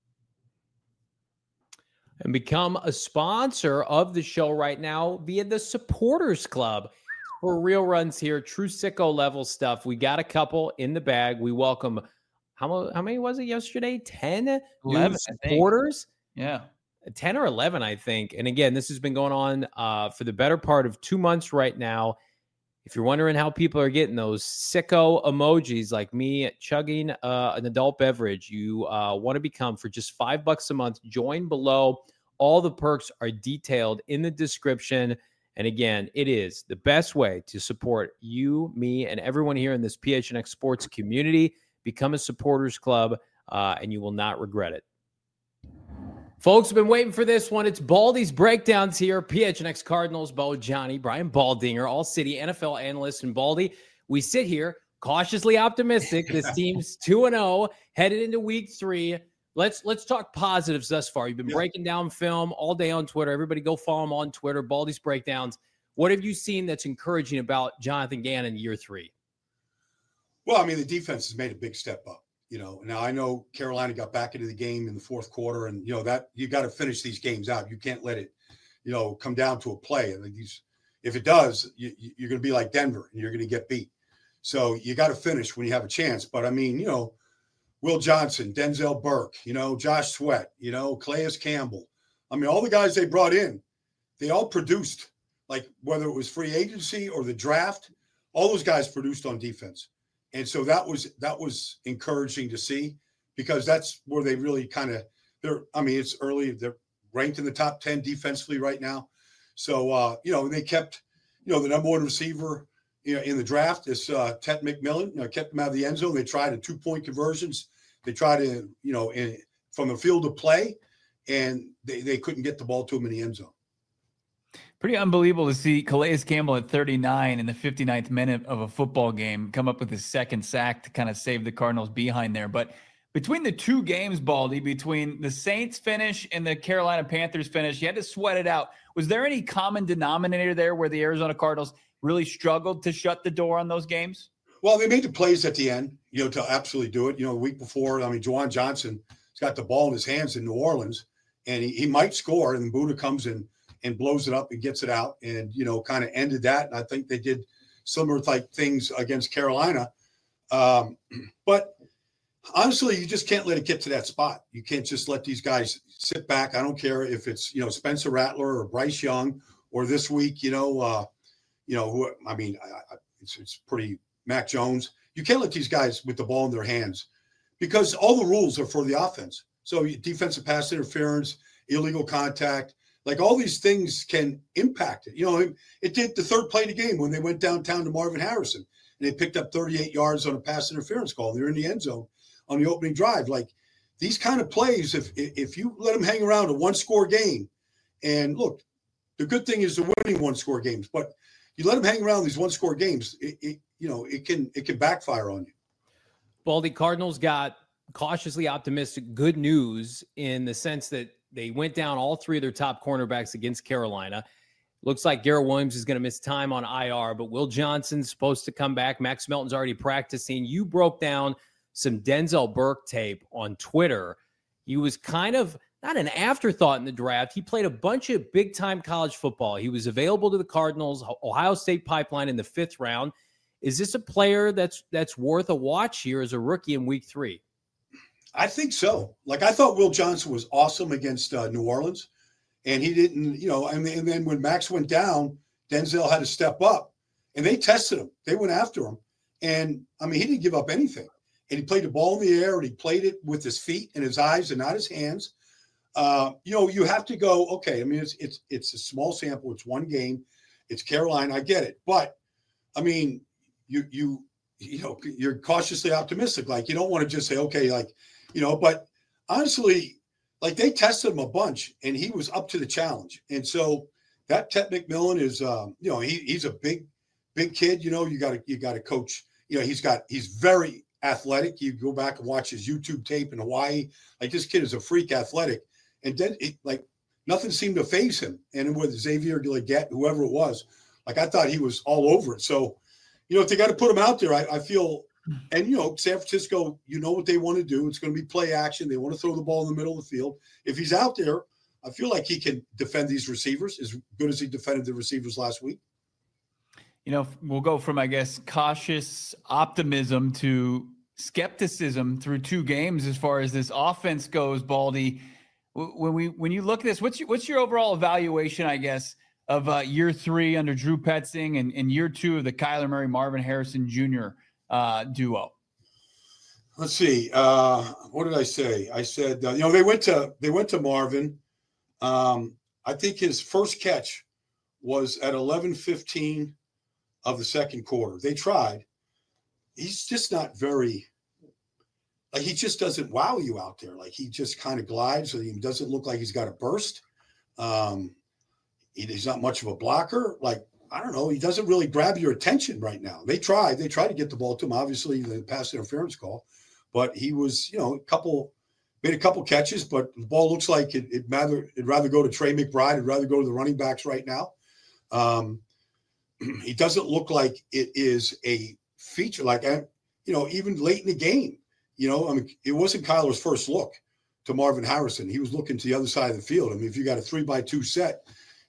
S2: And become a sponsor of the show right now via the Supporters Club. For real runs here, true sicko level stuff. We got a couple in the bag. We welcome, how, how many was it yesterday? ten
S1: eleven,
S2: new supporters?
S1: Yeah.
S2: ten or eleven, I think. And again, this has been going on uh, for the better part of two months right now. If you're wondering how people are getting those sicko emojis like me chugging uh, an adult beverage, you uh, want to become for just five bucks a month. Join below. All the perks are detailed in the description. And again, it is the best way to support you, me, and everyone here in this P H N X sports community. Become a supporters club, uh, and you will not regret it. Folks have been waiting for this one. It's Baldy's Breakdowns here. P H N X Cardinals, Bo, Johnny, Brian Baldinger, all-city N F L analyst, and Baldy. We sit here cautiously optimistic. This team's two and oh, headed into week three. Let's let's talk positives thus far. You've been yeah. breaking down film all day on Twitter. Everybody go follow him on Twitter, Baldy's Breakdowns. What have you seen that's encouraging about Jonathan Gannon year three?
S9: Well, I mean, the defense has made a big step up. You know, now I know Carolina got back into the game in the fourth quarter, and, you know, that you got to finish these games out. You can't let it you know, come down to a play. And these, if it does, you, you're going to be like Denver and you're going to get beat. So you got to finish when you have a chance. But I mean, you know, Will Johnson, Denzel Burke, you know, Josh Sweat, you know, Calais Campbell. I mean, all the guys they brought in, they all produced, like whether it was free agency or the draft, all those guys produced on defense. And so that was that was encouraging to see, because that's where they really kind of they're I mean, it's early, they're ranked in the top ten defensively right now. So uh, you know, they kept, you know, the number one receiver, you know, in the draft is uh Ted McMillan, you know, kept him out of the end zone. They tried a two-point conversions. They tried to, you know, in, from the field of play, and they, they couldn't get the ball to him in the end zone.
S1: Pretty unbelievable to see Calais Campbell at thirty-nine in the fifty-ninth minute of a football game come up with his second sack to kind of save the Cardinals behind there. But between the two games, Baldy, between the Saints finish and the Carolina Panthers finish, you had to sweat it out. Was there any common denominator there where the Arizona Cardinals really struggled to shut the door on those games?
S9: Well, they made the plays at the end, you know, to absolutely do it. You know, the week before, I mean, Juwan Johnson has got the ball in his hands in New Orleans, and he, he might score, and then Buddha comes in and blows it up and gets it out and, you know, kind of ended that. And I think they did similar type things against Carolina. Um, but honestly, you just can't let it get to that spot. You can't just let these guys sit back. I don't care if it's, you know, Spencer Rattler or Bryce Young, or this week, you know, uh, you know, who, I mean, I, I, it's, it's pretty Mac Jones. You can't let these guys with the ball in their hands, because all the rules are for the offense. So defensive pass interference, illegal contact, like all these things can impact it. You know, it, it did the third play of the game when they went downtown to Marvin Harrison and they picked up thirty-eight yards on a pass interference call. They're in the end zone on the opening drive. Like these kind of plays, if if you let them hang around a one-score game, and look, the good thing is the winning one-score games, but you let them hang around these one-score games, it, it you know, it can it can backfire on you.
S2: Baldy, Cardinals got cautiously optimistic good news in the sense that they went down all three of their top cornerbacks against Carolina. Looks like Garrett Williams is going to miss time on I R, but Will Johnson's supposed to come back. Max Melton's already practicing. You broke down some Denzel Burke tape on Twitter. He was kind of not an afterthought in the draft. He played a bunch of big-time college football. He was available to the Cardinals, Ohio State pipeline in the fifth round. Is this a player that's that's worth a watch here as a rookie in week three?
S9: I think so. Like, I thought Will Johnson was awesome against uh, New Orleans, and he didn't, you know, and, and then when Max went down, Denzel had to step up, and they tested him. They went after him. And, I mean, he didn't give up anything. And he played the ball in the air, and he played it with his feet and his eyes and not his hands. Uh, you know, you have to go, okay, I mean, it's it's it's a small sample. It's one game. It's Carolina. I get it. But, I mean, you you you know, you're cautiously optimistic. Like, you don't want to just say, okay, like, you know, but honestly, like they tested him a bunch and he was up to the challenge. And so that Ted McMillan is, um, you know, he, he's a big, big kid. You know, you got to, you got to coach, you know, he's got, he's very athletic. You go back and watch his YouTube tape in Hawaii. Like this kid is a freak athletic. And then it, like nothing seemed to faze him. And with Xavier Leggett, whoever it was, like I thought he was all over it. So, you know, if they got to put him out there, I, I feel, and, you know, San Francisco, you know what they want to do. It's going to be play action. They want to throw the ball in the middle of the field. If he's out there, I feel like he can defend these receivers as good as he defended the receivers last week.
S1: You know, we'll go from, I guess, cautious optimism to skepticism through two games as far as this offense goes, Baldy. When we when you look at this, what's your, what's your overall evaluation, I guess, of uh, year three under Drew Petzing and, and year two of the Kyler Murray, Marvin Harrison Junior Uh, duo?
S9: Let's see. Uh, what did I say? I said, uh, you know, they went to they went to Marvin. Um, I think his first catch was at eleven fifteen of the second quarter. They tried. He's just not very, like he just doesn't wow you out there. Like he just kind of glides. He doesn't look like he's got a burst. Um, he, he's not much of a blocker. Like, I don't know. He doesn't really grab your attention right now. They tried. They tried to get the ball to him. Obviously, the pass interference call, but he was, you know, a couple made a couple catches. But the ball looks like it, it'd rather it'd rather go to Trey McBride. It'd rather go to the running backs right now. Um, he doesn't look like it is a feature. Like, you know, even late in the game, you know, I mean, it wasn't Kyler's first look to Marvin Harrison. He was looking to the other side of the field. I mean, if you got a three by two set,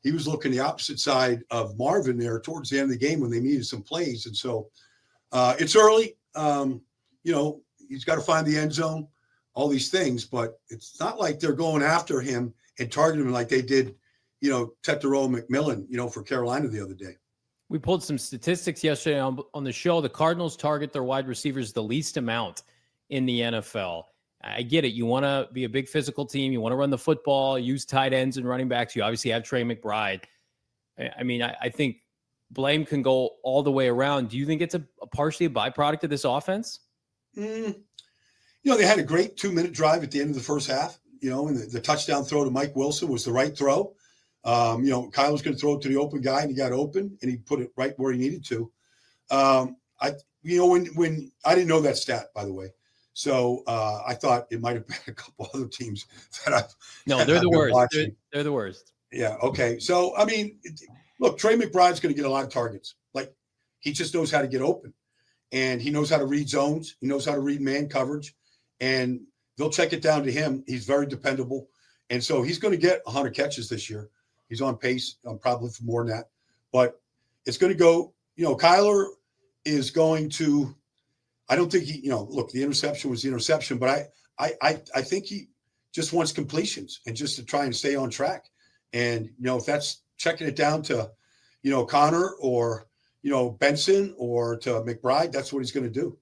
S9: he was looking the opposite side of Marvin there towards the end of the game when they needed some plays. And so uh, it's early. Um, you know, he's got to find the end zone, all these things, but it's not like they're going after him and targeting him like they did, you know, Tetairoa McMillan, you know, for Carolina the other day.
S2: We pulled some statistics yesterday on, on the show. The Cardinals target their wide receivers the least amount in the N F L. I get it. You want to be a big physical team. You want to run the football, use tight ends and running backs. You obviously have Trey McBride. I mean, I, I think blame can go all the way around. Do you think it's a, a partially a byproduct of this offense?
S9: Mm, you know, they had a great two-minute drive at the end of the first half, you know, and the, the touchdown throw to Mike Wilson was the right throw. Um, you know, Kyle was going to throw it to the open guy, and he got open, and he put it right where he needed to. Um, I, you know, when when I didn't know that stat, by the way, so uh, I thought it might have been a couple other teams that I've
S2: no,
S9: that
S2: they're
S9: I've
S2: the worst. They're,
S9: They're,
S2: they're the worst.
S9: Yeah. Okay. So I mean, look, Trey McBride's going to get a lot of targets. Like he just knows how to get open, and he knows how to read zones. He knows how to read man coverage, and they'll check it down to him. He's very dependable, and so he's going to get one hundred catches this year. He's on pace, um, probably for more than that. But it's going to go, you know, Kyler is going to, I don't think he, you know, look, the interception was the interception, but I, I, I, I think he just wants completions and just to try and stay on track. And, you know, if that's checking it down to, you know, Connor or, you know, Benson or to McBride, that's what he's going to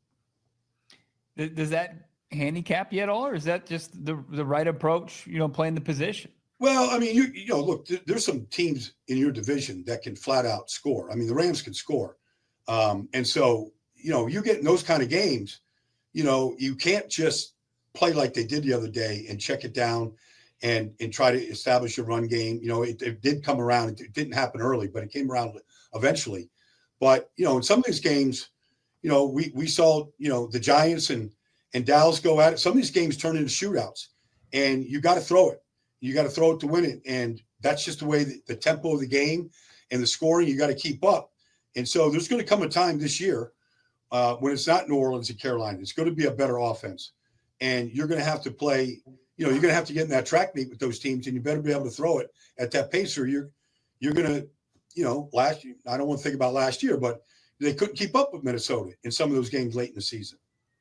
S1: do. Does that handicap you at all, or is that just the, the right approach, you know, playing the position?
S9: Well, I mean, you you know, look, th- there's some teams in your division that can flat out score. I mean, the Rams can score. Um, and so, you know, you get in those kind of games, you know, you can't just play like they did the other day and check it down and and try to establish a run game. You know, it, it did come around. It didn't happen early, but it came around eventually. But, you know, in some of these games, you know, we we saw, you know, the Giants and, and Dallas go at it. Some of these games turn into shootouts, and you got to throw it. You got to throw it to win it. And that's just the way the, the tempo of the game and the scoring, you got to keep up. And so there's going to come a time this year uh, when it's not New Orleans and Carolina. It's going to be a better offense. And you're going to have to play, you know, you're going to have to get in that track meet with those teams, and you better be able to throw it at that pace, or you're, you're going to, you know, last year, I don't want to think about last year, but they couldn't keep up with Minnesota in some of those games late in the season.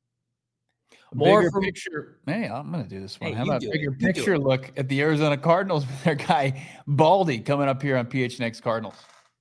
S1: More bigger from, picture. Hey, I'm going to do this one.
S2: Hey,
S1: How about a bigger
S2: it.
S1: picture look at the Arizona Cardinals with their guy Baldy coming up here on P H N X Cardinals?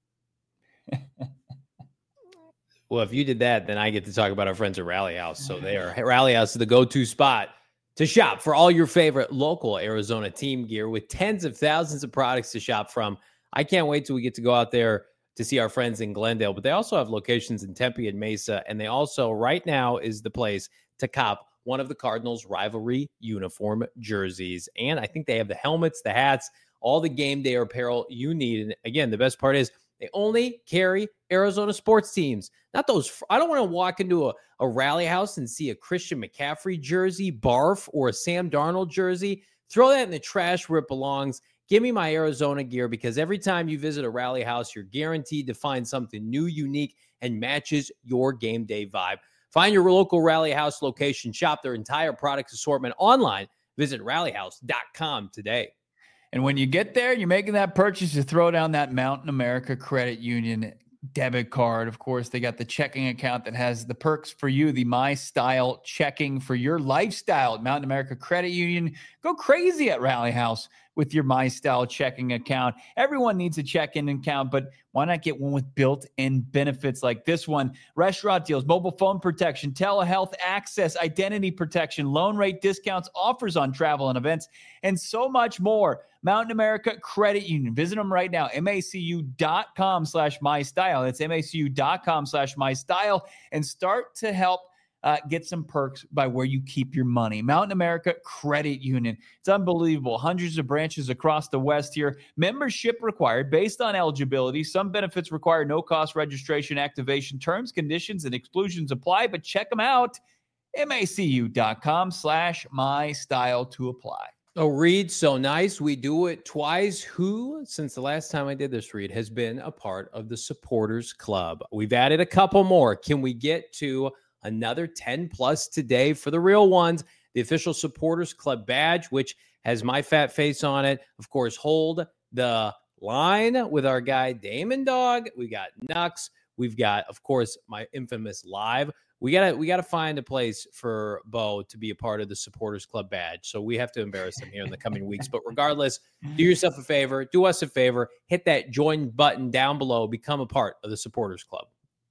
S2: Well, if you did that, then I get to talk about our friends at Rally House. So they are Rally House is the go-to spot to shop for all your favorite local Arizona team gear with tens of thousands of products to shop from. I can't wait till we get to go out there to see our friends in Glendale, but they also have locations in Tempe and Mesa, and they also right now is the place to cop one of the Cardinals rivalry uniform jerseys. And I think they have the helmets, the hats, all the game day apparel you need. And again, the best part is they only carry Arizona sports teams, not those. I don't want to walk into a, a Rally House and see a Christian McCaffrey jersey, barf, or a Sam Darnold jersey. Throw that in the trash where it belongs. Give me my Arizona gear, because every time you visit a Rally House, you're guaranteed to find something new, unique, and matches your game day vibe. Find your local Rally House location. Shop their entire product assortment online. Visit rally house dot com today.
S1: And when you get there, you're making that purchase, you throw down that Mountain America Credit Union debit card. Of course, they got the checking account that has the perks for you, the My Style checking for your lifestyle at Mountain America Credit Union. Go crazy at Rally House with your My Style checking account. Everyone needs a checking account, but why not get one with built-in benefits like this one? Restaurant deals, mobile phone protection, telehealth access, identity protection, loan rate discounts, offers on travel and events, and so much more. Mountain America Credit Union. Visit them right now, macu.com slash mystyle. That's macu.com slash mystyle, and start to help Uh, get some perks by where you keep your money. Mountain America Credit Union. It's unbelievable. Hundreds of branches across the West here. Membership required based on eligibility. Some benefits require no-cost registration, activation. Terms, conditions, and exclusions apply, but check them out. macu.com slash mystyle to apply.
S2: Oh, Reed, so nice. We do it twice. Who, since the last time I did this, Reed, has been a part of the Supporters Club? We've added a couple more. Can we get to another ten plus today for the real ones? The official Supporters Club badge, which has my fat face on it. Of course, hold the line with our guy Damon Dog. We got Nux. We've got, of course, my infamous live. We gotta we gotta find a place for Bo to be a part of the Supporters Club badge. So we have to embarrass him here in the coming weeks. But regardless, do yourself a favor, do us a favor, hit that join button down below, become a part of the Supporters Club.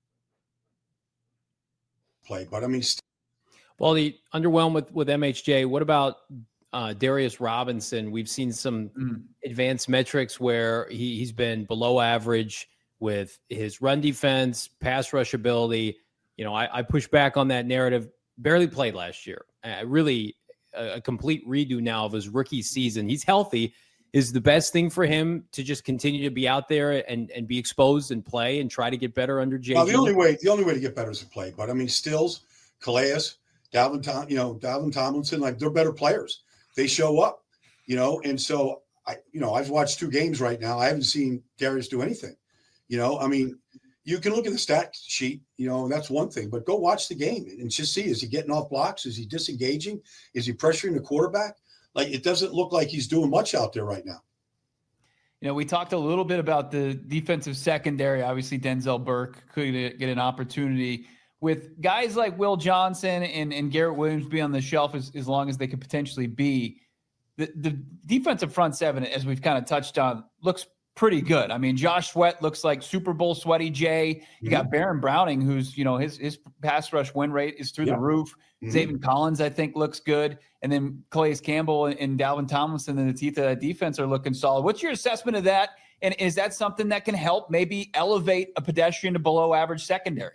S9: Play, but I mean, st-
S2: well, the underwhelmed with with M H J. What about uh, Darius Robinson? We've seen some mm. advanced metrics where he he's been below average with his run defense, pass rush ability. You know, I, I push back on that narrative. Barely played last year. Uh, really a, a complete redo now of his rookie season. He's healthy. Is the best thing for him to just continue to be out there and, and be exposed and play and try to get better under J G?
S9: Well, the only way the only way to get better is to play. But I mean, Stills, Calais, Dalvin, Tom, you know, Dalvin Tomlinson, like they're better players. They show up, you know, and so I, you know, I've watched two games right now. I haven't seen Darius do anything. You know, I mean, you can look at the stat sheet, you know, and that's one thing, but go watch the game and just see, is he getting off blocks? Is he disengaging? Is he pressuring the quarterback? Like, it doesn't look like he's doing much out there right now.
S1: You know, we talked a little bit about the defensive secondary. Obviously, Denzel Burke could get an opportunity with guys like Will Johnson and, and Garrett Williams be on the shelf as, as long as they could potentially be. The, the defensive front seven, as we've kind of touched on, looks pretty good. I mean, Josh Sweat looks like Super Bowl sweaty Jay. You got Baron Browning, who's, you know, his his pass rush win rate is through yeah. the roof. Mm-hmm. Zaven Collins, I think, looks good. And then Calais Campbell and, and Dalvin Tomlinson in the teeth of that defense are looking solid. What's your assessment of that? And is that something that can help maybe elevate a pedestrian to below average secondary?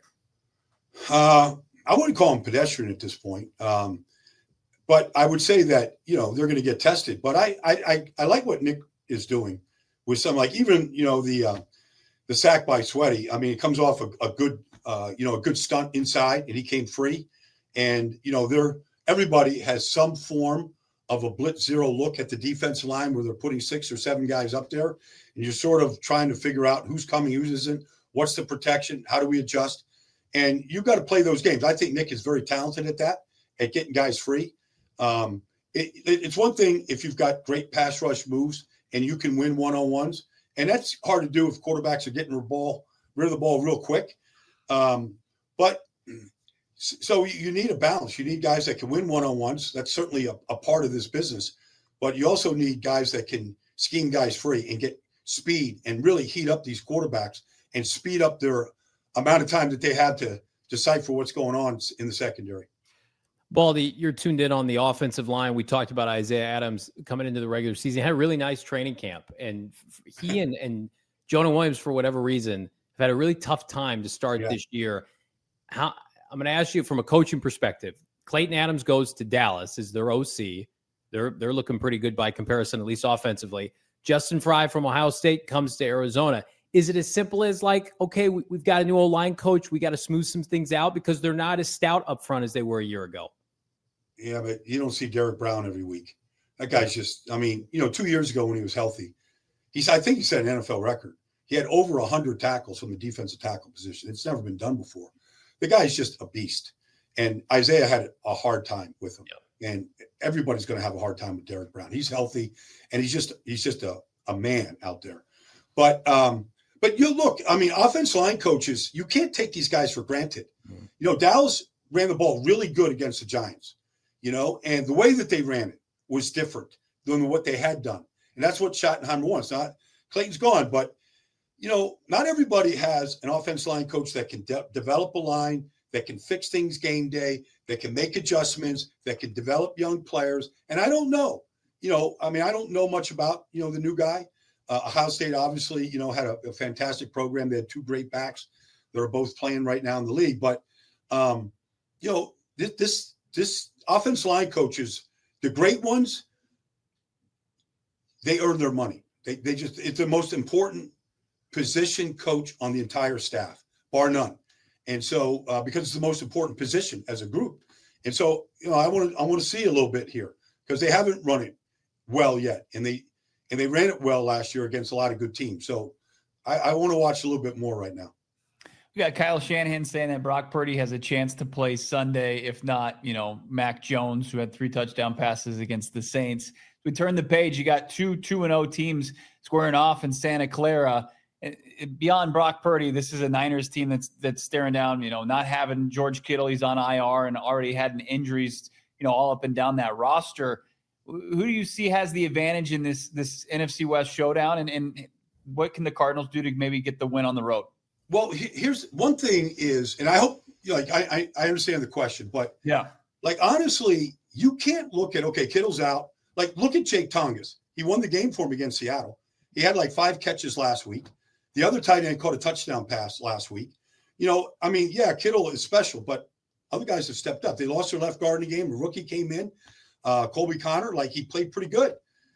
S9: Uh, I wouldn't call him pedestrian at this point. Um, but I would say that, you know, they're going to get tested. But I, I, I, I like what Nick is doing with some, like even, you know, the uh, the sack by Sweaty. I mean, it comes off a, a good, uh, you know, a good stunt inside, and he came free. And, you know, they're everybody has some form of a blitz zero look at the defensive line where they're putting six or seven guys up there. And you're sort of trying to figure out who's coming, who isn't, what's the protection, how do we adjust? And you've got to play those games. I think Nick is very talented at that, at getting guys free. Um, it, it, it's one thing if you've got great pass rush moves and you can win one-on-ones. And that's hard to do if quarterbacks are getting the ball, rid of the ball real quick. Um, but so you need a balance. You need guys that can win one-on-ones. That's certainly a, a part of this business. But you also need guys that can scheme guys free and get speed and really heat up these quarterbacks and speed up their amount of time that they have to decipher what's going on in the secondary.
S2: Baldy, you're tuned in on the offensive line. We talked about Isaiah Adams coming into the regular season. He had a really nice training camp. And he and, and Jonah Williams, for whatever reason, have had a really tough time to start yeah. this year. How I'm going to ask you from a coaching perspective. Clayton Adams goes to Dallas as their O C. They're, they're looking pretty good by comparison, at least offensively. Justin Fry from Ohio State comes to Arizona. Is it as simple as like, okay, we, we've got a new O-line coach. We got to smooth some things out because they're not as stout up front as they were a year ago?
S9: Yeah, but you don't see Derek Brown every week. That guy's just, I mean, you know, two years ago when he was healthy, he's, I think he set an N F L record. He had over one hundred tackles from the defensive tackle position. It's never been done before. The guy's just a beast. And Isaiah had a hard time with him. Yep. And everybody's going to have a hard time with Derek Brown. He's healthy, and he's just he's just a, a man out there. But um, but you look, I mean, offensive line coaches, you can't take these guys for granted. Mm-hmm. You know, Dallas ran the ball really good against the Giants, you know, and the way that they ran it was different than what they had done. And that's what Schottenheimer wants. Not Clayton's gone, but, you know, not everybody has an offensive line coach that can de- develop a line, that can fix things game day, that can make adjustments, that can develop young players. And I don't know, you know, I mean, I don't know much about, you know, the new guy. Uh, Ohio State obviously, you know, had a, a fantastic program. They had two great backs that are both playing right now in the league. But, um, you know, this, this, this offensive line coaches, the great ones, they earn their money. They, they just, it's the most important position coach on the entire staff, bar none. And so, uh, because it's the most important position as a group. And so, you know, I want to, I want to see a little bit here because they haven't run it well yet. And they, and they ran it well last year against a lot of good teams. So I, I want to watch a little bit more right now.
S1: We got Kyle Shanahan saying that Brock Purdy has a chance to play Sunday. If not, you know, Mac Jones, who had three touchdown passes against the Saints. we turn the page. You got two two and oh teams squaring off in Santa Clara. Beyond Brock Purdy, this is a Niners team that's that's staring down, you know, not having George Kittle. He's on I R and already had injuries, you know, all up and down that roster. Who do you see has the advantage in this this N F C West showdown, and, and what can the Cardinals do to maybe get the win on the road?
S9: Well, here's one thing is, and I hope, like, I, I understand the question, but
S1: yeah,
S9: like, honestly, you can't look at, okay, Kittle's out. Like, look at Jake Tongas. He won the game for him against Seattle. He had like five catches last week. The other tight end caught a touchdown pass last week. You know, I mean, yeah, Kittle is special, but other guys have stepped up. They lost their left guard in the game. A rookie came in, uh, Colby Connor, like, he played pretty good.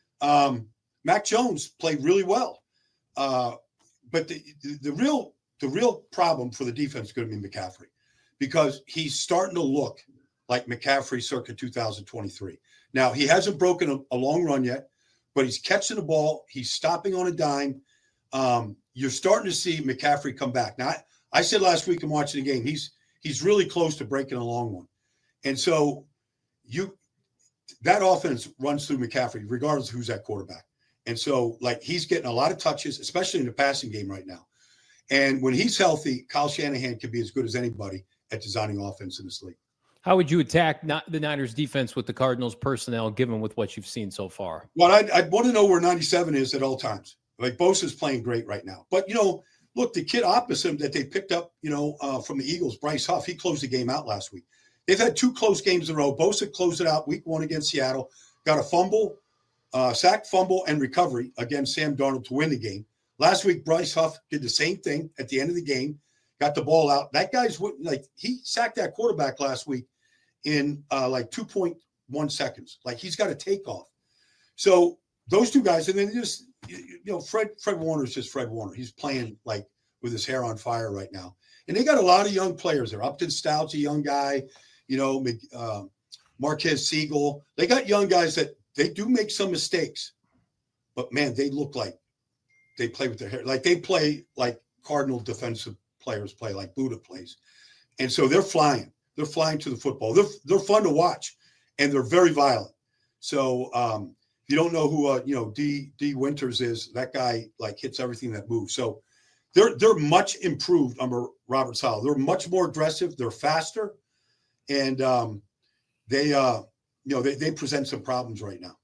S9: Um, Mac Jones played really well. Uh, but the, the, the real the real problem for the defense is going to be McCaffrey, because he's starting to look like McCaffrey circa two thousand twenty-three. Now, he hasn't broken a, a long run yet, but he's catching the ball. He's stopping on a dime. Um, you're starting to see McCaffrey come back. Now, I, I said last week in watching the game, he's he's really close to breaking a long one. And so you that offense runs through McCaffrey, regardless of who's at quarterback. And so, like, he's getting a lot of touches, especially in the passing game right now. And when he's healthy, Kyle Shanahan can be as good as anybody at designing offense in this league.
S2: How would you attack not the Niners defense with the Cardinals personnel, given with what you've seen so far?
S9: Well, I'd, I'd want to know where ninety-seven is at all times. Like, Bosa's playing great right now. But, you know, look, the kid opposite him that they picked up, you know, uh, from the Eagles, Bryce Huff, he closed the game out last week. They've had two close games in a row. Bosa closed it out week one against Seattle, got a fumble, uh, sack, fumble, and recovery against Sam Darnold to win the game. Last week, Bryce Huff did the same thing at the end of the game, got the ball out. That guy's like, he sacked that quarterback last week in uh, like two point one seconds. Like, he's got a takeoff. So those two guys, and then just, you know, Fred Fred Warner's just Fred Warner. He's playing like with his hair on fire right now. And they got a lot of young players there. Upton Stout's a young guy, you know, uh, Marquez Siegel. They got young guys that they do make some mistakes, but man, they look like they play with their hair. Like, they play like Cardinal defensive players play, like Buddha plays. And so they're flying. They're flying to the football. They're they're fun to watch, and they're very violent. So um, if you don't know who uh, you know D D Winters is, that guy like hits everything that moves. So they're they're much improved under Robert Saleh. They're much more aggressive. They're faster, and um, they uh, you know they they present some problems right now.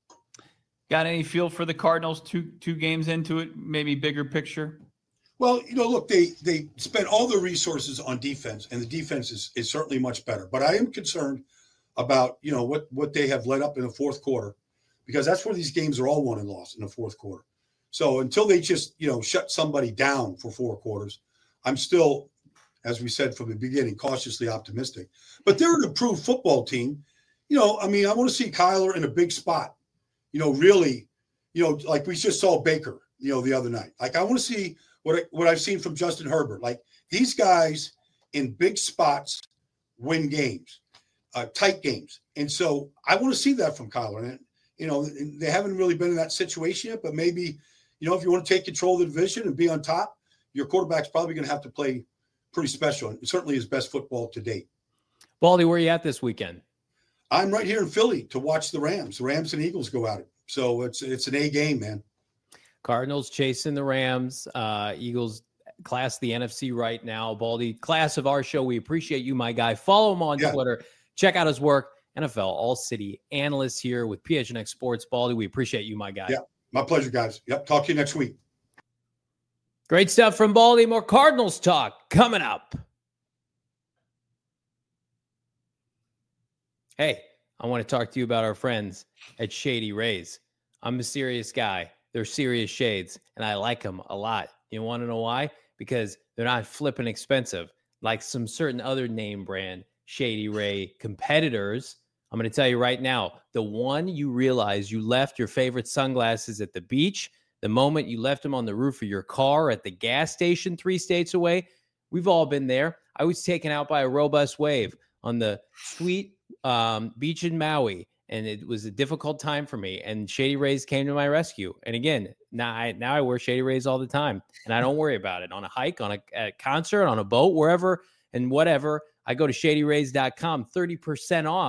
S1: Got any feel for the Cardinals two two games into it? Maybe bigger picture.
S9: Well, you know, look, they they spent all their resources on defense, and the defense is, is certainly much better. But I am concerned about, you know, what, what they have led up in the fourth quarter, because that's where these games are all won and lost, in the fourth quarter. So until they just, you know, shut somebody down for four quarters, I'm still, as we said from the beginning, cautiously optimistic. But they're an improved football team. You know, I mean, I want to see Kyler in a big spot, you know, really, you know, like we just saw Baker, you know, the other night. Like, I want to see what I, what I've seen from Justin Herbert. Like, these guys in big spots win games, uh, tight games. And so I want to see that from Kyler. And, you know, they haven't really been in that situation yet, but maybe, you know, if you want to take control of the division and be on top, your quarterback's probably going to have to play pretty special, and certainly his best football to date.
S2: Baldy, where are you at this weekend?
S9: I'm right here in Philly to watch the Rams. The Rams and Eagles go at it. So it's it's an A game, man.
S2: Cardinals chasing the Rams. Uh, Eagles class the N F C right now. Baldy, class of our show, we appreciate you, my guy. Follow him on yeah. Twitter. Check out his work. N F L All-City analyst here with P H N X Sports. Baldy, we appreciate you, my guy.
S9: Yeah, my pleasure, guys. Yep, talk to you next week.
S2: Great stuff from Baldy. More Cardinals talk coming up. Hey, I want to talk to you about our friends at Shady Rays. I'm a serious guy. They're serious shades, and I like them a lot. You want to know why? Because they're not flipping expensive like some certain other name brand Shady Ray competitors. I'm going to tell you right now, the one you realize you left your favorite sunglasses at the beach, the moment you left them on the roof of your car, at the gas station three states away, we've all been there. I was taken out by a robust wave on the sweet um, beach in Maui, and it was a difficult time for me, and Shady Rays came to my rescue. And again, now I, now I wear Shady Rays all the time, and I don't worry about it. On a hike, on a, a concert, on a boat, wherever and whatever, I go to shady rays dot com, thirty percent off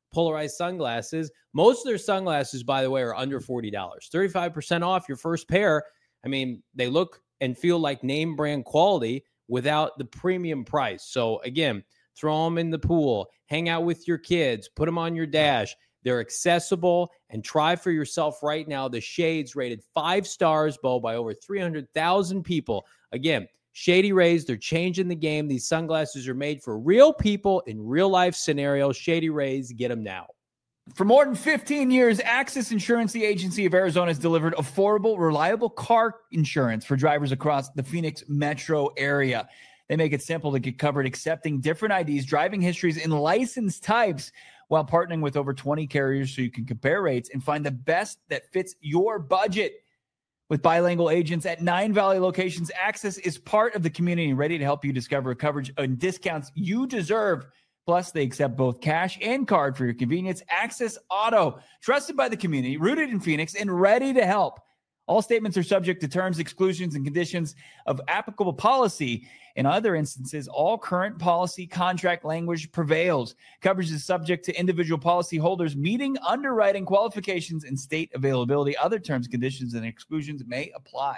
S2: polarized sunglasses. Most of their sunglasses, by the way, are under forty dollars. thirty-five percent off your first pair. I mean, they look and feel like name brand quality without the premium price. So again, throw them in the pool, hang out with your kids, put them on your dash. They're accessible, and try for yourself right now. The Shades rated five stars, Bo, by over three hundred thousand people. Again, Shady Rays, they're changing the game. These sunglasses are made for real people in real life scenarios. Shady Rays, get them now.
S1: For more than fifteen years, Access Insurance, the agency of Arizona, has delivered affordable, reliable car insurance for drivers across the Phoenix metro area. They make it simple to get covered, accepting different I Ds, driving histories, and license types, while partnering with over twenty carriers so you can compare rates and find the best that fits your budget. With bilingual agents at nine Valley locations, Access is part of the community and ready to help you discover coverage and discounts you deserve. Plus, they accept both cash and card for your convenience. Access Auto, trusted by the community, rooted in Phoenix, and ready to help. All statements are subject to terms, exclusions, and conditions of applicable policy. In other instances, all current policy contract language prevails. Coverage is subject to individual policy holders meeting underwriting qualifications and state availability. Other terms, conditions, and exclusions may apply.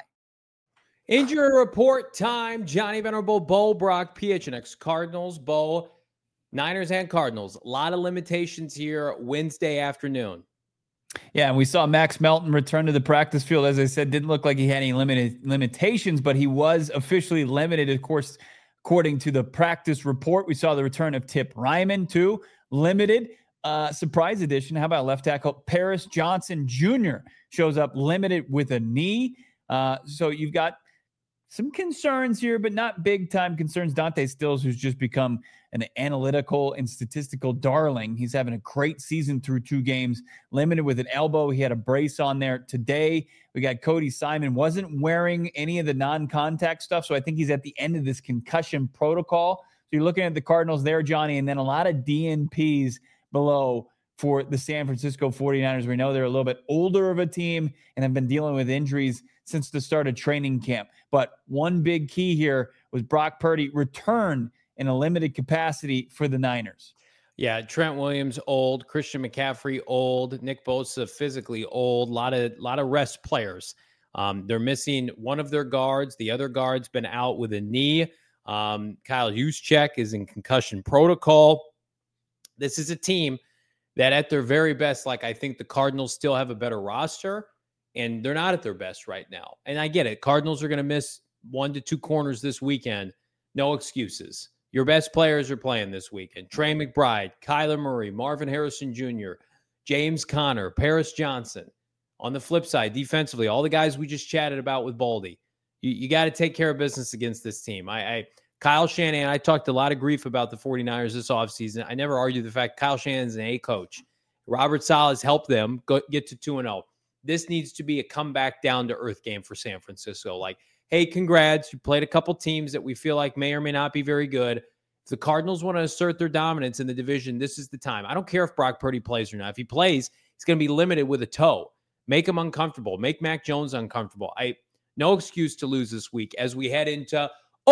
S2: Injury report time. Johnny Venerable, Bo Brock, P H N X Cardinals, Bo, Niners and Cardinals. A lot of limitations here Wednesday afternoon.
S1: Yeah, and we saw Max Melton return to the practice field. As I said, didn't look like he had any limited limitations, but he was officially limited, of course, according to the practice report. We saw the return of Tip Ryman, too, limited. Uh, surprise addition. How about left tackle Paris Johnson Junior shows up limited with a knee. Uh, so you've got some concerns here, but not big-time concerns. Dante Stills, who's just become an analytical and statistical darling. He's having a great season through two games, limited with an elbow. He had a brace on there today. We got Cody Simon, wasn't wearing any of the non-contact stuff, so I think he's at the end of this concussion protocol. So you're looking at the Cardinals there, Johnny, and then a lot of D N Ps below for the San Francisco forty-niners. We know they're a little bit older of a team and have been dealing with injuries since the start of training camp. But one big key here was Brock Purdy returned in a limited capacity for the Niners.
S2: Yeah, Trent Williams, old. Christian McCaffrey, old. Nick Bosa, physically old. A lot of, lot of rest players. Um, they're missing one of their guards. The other guard's been out with a knee. Um, Kyle Juszczyk is in concussion protocol. This is a team that at their very best, like I think the Cardinals still have a better roster, and they're not at their best right now. And I get it. Cardinals are going to miss one to two corners this weekend. No excuses. Your best players are playing this weekend. Trey McBride, Kyler Murray, Marvin Harrison Junior, James Conner, Paris Johnson. On the flip side, defensively, all the guys we just chatted about with Baldy. You, you got to take care of business against this team. I, I Kyle Shanahan, I talked a lot of grief about the forty-niners this offseason. I never argued the fact Kyle Shanahan's an A coach. Robert Saleh helped them go, get to two and oh. This needs to be a comeback down-to-earth game for San Francisco. Like, hey, congrats. You played a couple teams that we feel like may or may not be very good. If the Cardinals want to assert their dominance in the division, this is the time. I don't care if Brock Purdy plays or not. If he plays, he's going to be limited with a toe. Make him uncomfortable. Make Mac Jones uncomfortable. I no excuse to lose this week as we head into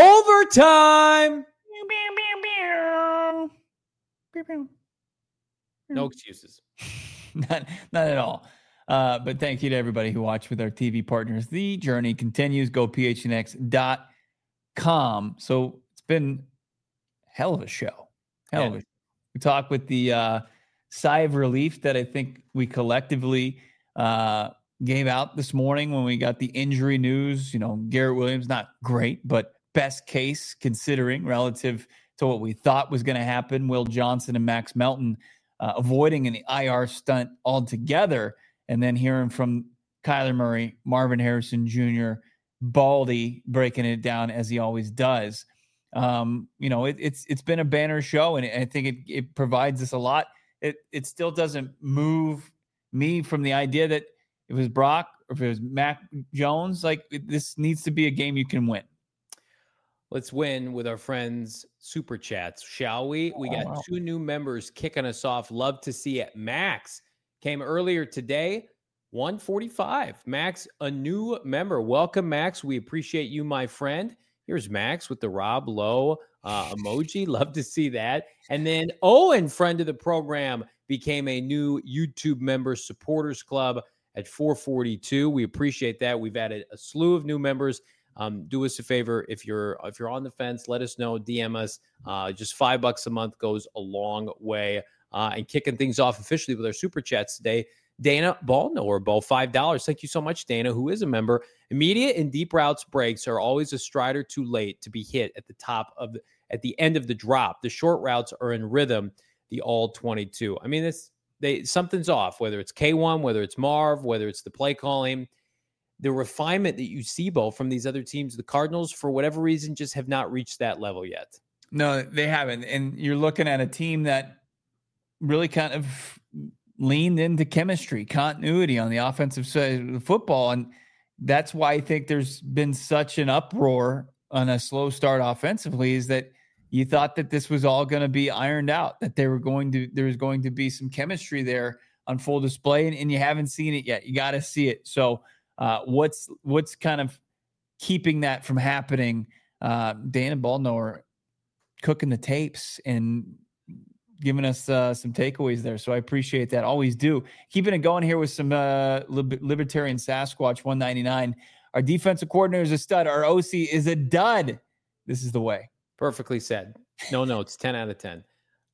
S2: overtime. No excuses.
S1: not, not at all. Uh, but thank you to everybody who watched with our T V partners. The journey continues. Go P H N X dot com. So it's been a hell of a show. Hell yeah. of a show. We talked with the uh, sigh of relief that I think we collectively uh, gave out this morning when we got the injury news. You know, Garrett Williams, not great, but best case considering relative to what we thought was going to happen. Will Johnson and Max Melton uh, avoiding an I R stunt altogether. And then hearing from Kyler Murray, Marvin Harrison Junior, Baldy breaking it down as he always does. Um, you know, it, it's it's been a banner show, and I think it it provides us a lot. It it still doesn't move me from the idea that if it was Brock or if it was Mac Jones, like it, this needs to be a game you can win.
S2: Let's win with our friends Super Chats, shall we? We got oh, wow. two new members kicking us off. Love to see it. Max came earlier today, one forty-five. Max, a new member. Welcome, Max. We appreciate you, my friend. Here's Max with the Rob Lowe uh, emoji. Love to see that. And then Owen, friend of the program, became a new YouTube member supporters club at four forty-two. We appreciate that. We've added a slew of new members. Um, do us a favor. If you're, if you're on the fence, let us know, D M us. Uh, just five bucks a month goes a long way. Uh, and kicking things off officially with our super chats today, Dana Ballknower, Bo, five dollars. Thank you so much, Dana, who is a member. Immediate and deep routes breaks are always a strider too late to be hit at the top of the, at the end of the drop. The short routes are in rhythm, the all twenty-two. I mean, it's, they, something's off, whether it's K one, whether it's Marv, whether it's the play calling. The refinement that you see, Bo, from these other teams, the Cardinals, for whatever reason, just have not reached that level yet.
S1: No, they haven't. And you're looking at a team that really kind of leaned into chemistry, continuity on the offensive side of the football. And that's why I think there's been such an uproar on a slow start offensively, is that you thought that this was all going to be ironed out, that they were going to, there was going to be some chemistry there on full display, and, and you haven't seen it yet. You got to see it. So uh, what's, what's kind of keeping that from happening? Uh, Dana Ballknower cooking the tapes and giving us uh, some takeaways there. So I appreciate that. Always do. Keeping it going here with some uh, Libertarian Sasquatch one ninety-nine. Our defensive coordinator is a stud. Our O C is a dud. This is the way.
S2: Perfectly said. No notes. ten out of ten.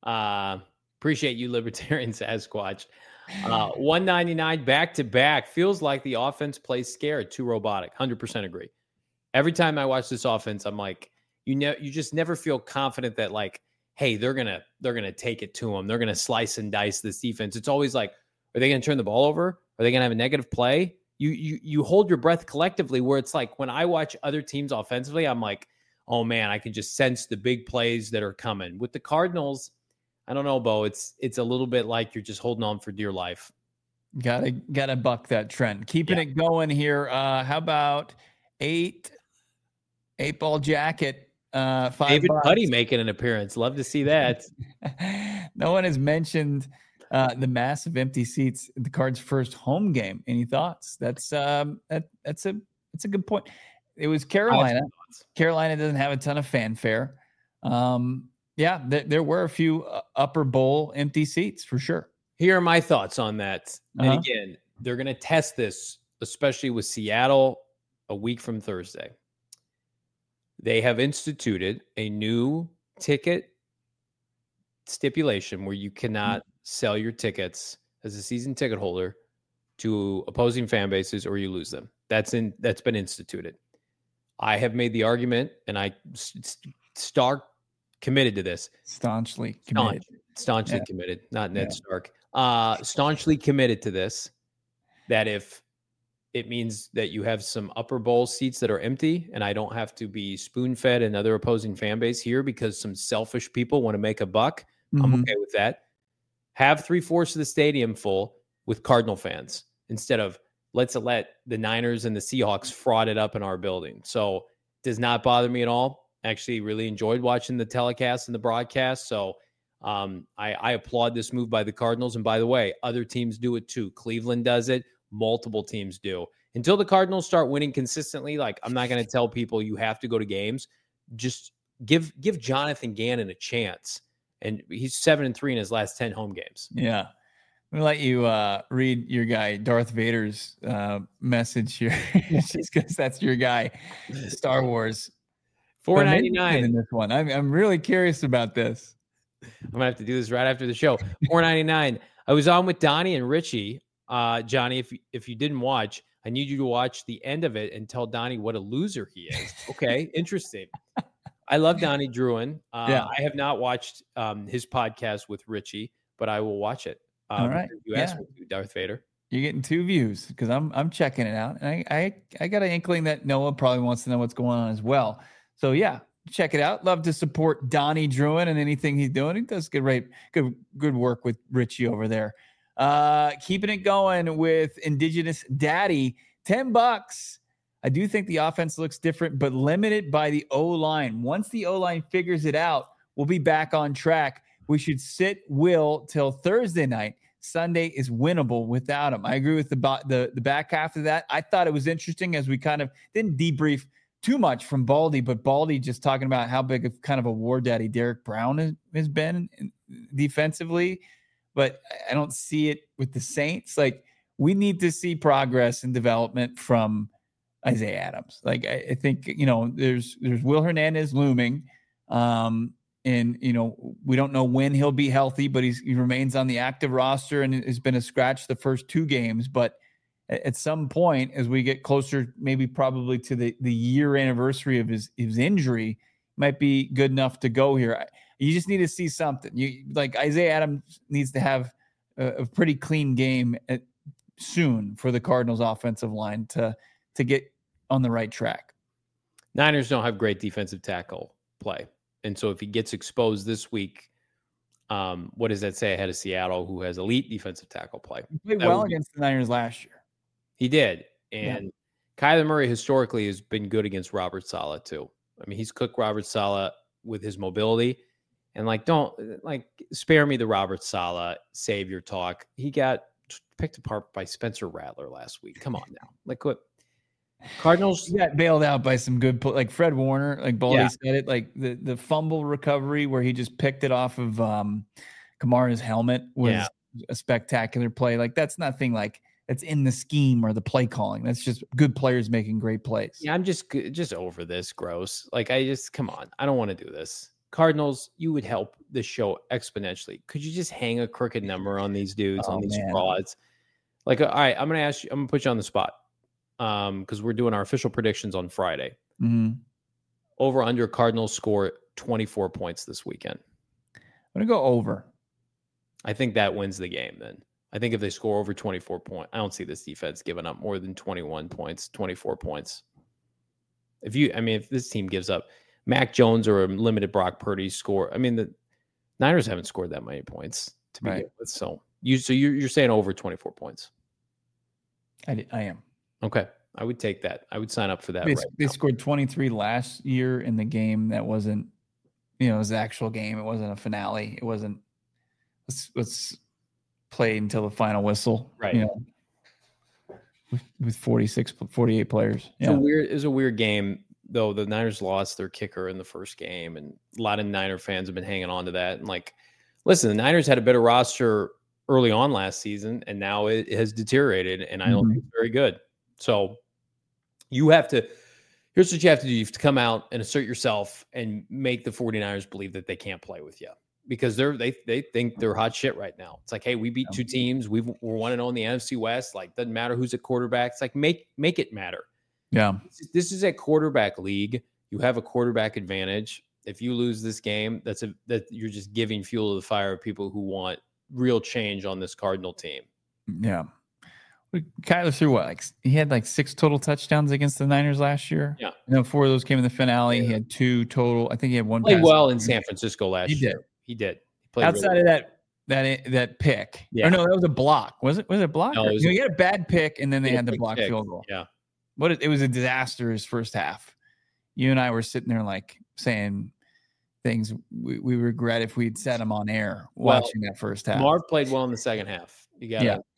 S2: Uh, appreciate you, Libertarian Sasquatch. Uh, one ninety-nine back to back. Feels like the offense plays scared. Too robotic. one hundred percent agree. Every time I watch this offense, I'm like, you know, you just never feel confident that, like, hey, they're gonna they're gonna take it to them. They're gonna slice and dice this defense. It's always like, are they gonna turn the ball over? Are they gonna have a negative play? You you you hold your breath collectively. Where it's like, when I watch other teams offensively, I'm like, oh man, I can just sense the big plays that are coming. With the Cardinals, I don't know, Bo. It's it's a little bit like you're just holding on for dear life.
S1: Gotta gotta buck that trend. Keeping
S2: Yeah.
S1: it going here. Uh, how about eight eight ball jacket? Uh, five
S2: David
S1: bucks.
S2: Putty making an appearance. Love to see that.
S1: No one has mentioned uh, the massive empty seats at the Cards' first home game. Any thoughts? That's um, that that's a that's a good point. It was Carolina. Carolina doesn't have a ton of fanfare. Um, yeah, th- there were a few uh, upper bowl empty seats for sure.
S2: Here are my thoughts on that.
S1: Uh-huh.
S2: And again, they're going to test this, especially with Seattle a week from Thursday. They have instituted a new ticket stipulation where you cannot mm-hmm. sell your tickets as a season ticket holder to opposing fan bases, or you lose them. That's in that's been instituted. I have made the argument, and I st- Stark committed to this.
S1: Staunchly committed.
S2: Staunch, staunchly
S1: yeah.
S2: committed, not Ned
S1: yeah.
S2: Stark. Uh, staunchly committed to this, that if it means that you have some upper bowl seats that are empty, and I don't have to be spoon-fed another opposing fan base here because some selfish people want to make a buck, mm-hmm. I'm okay with that. Have three-fourths of the stadium full with Cardinal fans instead of let's let the Niners and the Seahawks fraud it up in our building. So it does not bother me at all. Actually really enjoyed watching the telecast and the broadcast. So um, I, I applaud this move by the Cardinals. And by the way, other teams do it too. Cleveland does it. Multiple teams do. Until the Cardinals start winning consistently, like, I'm not going to tell people you have to go to games. Just give give Jonathan Gannon a chance. And he's seven and three in his last ten home games.
S1: Yeah. I'm going to let you uh, read your guy, Darth Vader's uh, message here. Just because that's your guy, Star Wars.
S2: four ninety-nine
S1: in this one. I'm, I'm really curious about this.
S2: I'm going to have to do this right after the show. four ninety-nine I was on with Donnie and Richie. Uh, Johnny, if, if you didn't watch, I need you to watch the end of it and tell Donnie what a loser he is. Okay, interesting. I love Donnie Druin. Uh,
S1: yeah.
S2: I have not watched um, his podcast with Richie, but I will watch it. Um,
S1: All right.
S2: You asked
S1: yeah.
S2: me to, Darth Vader.
S1: You're getting two views because I'm I'm checking it out, and I, I I got an inkling that Noah probably wants to know what's going on as well. So yeah, check it out. Love to support Donnie Druin and anything he's doing. He does good, right, good good work with Richie over there. Uh, keeping it going with Indigenous Daddy, ten bucks. I do think the offense looks different, but limited by the O-line. Once the O-line figures it out, we'll be back on track. We should sit Will till Thursday night. Sunday is winnable without him. I agree with the, the, the back half of that. I thought it was interesting as we kind of didn't debrief too much from Baldy, but Baldy just talking about how big of kind of a war daddy Derek Brown has, has been defensively. but I don't see it with the Saints. Like, we need to see progress and development from Isaiah Adams. Like, I, I think, you know, there's there's Will Hernandez looming. Um, and, you know, we don't know when he'll be healthy, but he's, he remains on the active roster and has been a scratch the first two games. But at some point, as we get closer, maybe probably to the, the year anniversary of his, his injury, might be good enough to go here. You just need to see something. You like Isaiah Adams needs to have a, a pretty clean game at, soon for the Cardinals offensive line to, to get on the right track.
S2: Niners don't have great defensive tackle play. And so if he gets exposed this week, um, what does that say ahead of Seattle, who has elite defensive tackle play?
S1: He played
S2: That
S1: well
S2: would be-
S1: against the Niners last year.
S2: He did. And Kyler Murray historically has been good against Robert Saleh too. I mean, he's cooked Robert Saleh with his mobility. And like, don't like spare me the Robert Saleh savior talk. He got picked apart by Spencer Rattler last week. Come on now. Like what? Cardinals
S1: He got bailed out by some good, pl- like Fred Warner, like Baldy
S2: Yeah.
S1: said it, like the, the fumble recovery where he just picked it off of um, Kamara's helmet was
S2: Yeah.
S1: a spectacular play. Like, that's nothing like that's in the scheme or the play calling. That's just good players making great plays.
S2: Yeah, I'm just just over this. Gross. Like, I just come on. I don't want to do this. Cardinals, you would help the show exponentially. Could you just hang a crooked number on these dudes,
S1: Oh,
S2: on these
S1: man.
S2: frauds? Like, all right, I'm gonna ask you. I'm gonna put you on the spot, um, because we're doing our official predictions on Friday.
S1: Mhm.
S2: Over under Cardinals score twenty-four points this weekend.
S1: I'm going to go over.
S2: I think that wins the game. Then I think if they score over twenty-four points, I don't see this defense giving up more than twenty-one points, twenty-four points. If you, I mean, if this team gives up, Mac Jones or a limited Brock Purdy score, I mean, the Niners haven't scored that many points to begin
S1: Right.
S2: with. So you, so you're, you're saying over twenty-four points.
S1: I, di- I am.
S2: Okay. I would take that. I would sign up for that.
S1: They,
S2: right
S1: they
S2: now.
S1: scored twenty-three last year in the game that wasn't, you know, it was the actual game. It wasn't a finale. It wasn't, let's, let's play until the final whistle.
S2: Right.
S1: You know, with, with forty-six, forty-eight players.
S2: It's
S1: Yeah.
S2: a weird, it was a weird game, though. The Niners lost their kicker in the first game, and a lot of Niner fans have been hanging on to that. And like, listen, the Niners had a better roster early on last season, and now it has deteriorated, and I don't
S1: Mhm.
S2: think it's very good. So you have to, here's what you have to do. You have to come out and assert yourself and make the 49ers believe that they can't play with you, because they're, they, they think they're hot shit right now. It's like, hey, we beat two teams. We've, we're one and oh in the N F C West. Like, doesn't matter who's at quarterback. It's like, make, make it matter.
S1: Yeah.
S2: This is- This is a quarterback league. You have a quarterback advantage. If you lose this game, that's a, that you're just giving fuel to the fire of people who want real change on this Cardinal team.
S1: Yeah. We- Kyler threw what? Like, he had like six total touchdowns against the Niners last year.
S2: Yeah.
S1: And then four of those came in the finale. He had two total. I think he had one.
S2: Played
S1: pass.
S2: well in San Francisco last
S1: He
S2: year.
S1: did.
S2: He did. He played
S1: Outside
S2: really
S1: of that, that that pick.
S2: Yeah.
S1: Or no, that was a block. Was it? Was it a block?
S2: No,
S1: Or-
S2: it was
S1: you
S2: a-
S1: know, he had a bad pick, and then they
S2: Yeah,
S1: had the
S2: big
S1: block
S2: pick.
S1: field goal.
S2: Yeah.
S1: What it, it was a disaster his first half. You and I were sitting there like saying things we, we regret if we'd set him on air
S2: Well,
S1: watching that first half.
S2: Marv played well in the second half. You got to,
S1: Yeah.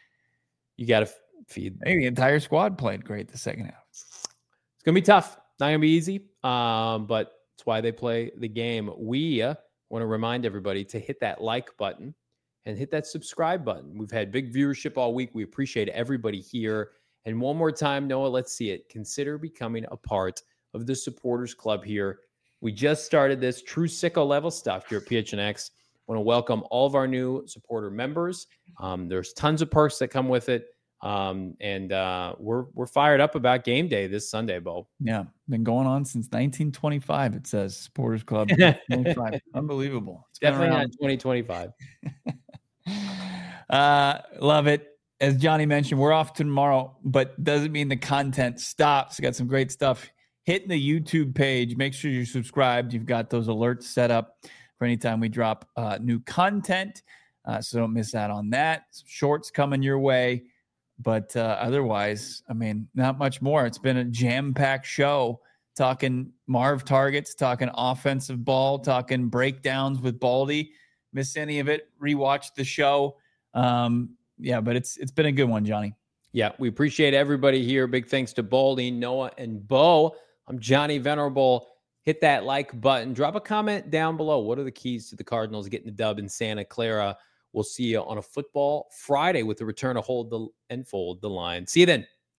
S2: you got to feed.
S1: Maybe the entire squad played great the second half.
S2: It's gonna be tough. Not gonna be easy. Um, but it's why they play the game. We uh, want to remind everybody to hit that like button and hit that subscribe button. We've had big viewership all week. We appreciate everybody here. And one more time, Noah, let's see it. Consider becoming a part of the supporters club here. We just started this true sicko level stuff here at P H N X. Want to welcome all of our new supporter members. Um, there's tons of perks that come with it. Um, and uh, we're we're fired up about game day this Sunday, Bo.
S1: Yeah, been going on since nineteen twenty-five. It says Supporters Club. twenty-five. Unbelievable. It's been
S2: Definitely
S1: around.
S2: not twenty twenty-five.
S1: Uh, love it. As Johnny mentioned, we're off tomorrow, but doesn't mean the content stops. Got some great stuff hitting the YouTube page. Make sure you're subscribed. You've got those alerts set up for anytime we drop uh, new content. Uh, so don't miss out on that. Some shorts coming your way. But uh, otherwise, I mean, not much more. It's been a jam-packed show, talking Marv targets, talking offensive ball, talking breakdowns with Baldy. Miss any of it, rewatch the show. Um, yeah, but it's it's been a good one, Johnny.
S2: Yeah, we appreciate everybody here. Big thanks to Baldy, Noah, and Bo. I'm Johnny Venerable. Hit that like button. Drop a comment down below. What are the keys to the Cardinals getting the dub in Santa Clara We'll see you on a Football Friday with the return of Hold the and Fold the Line. See you then.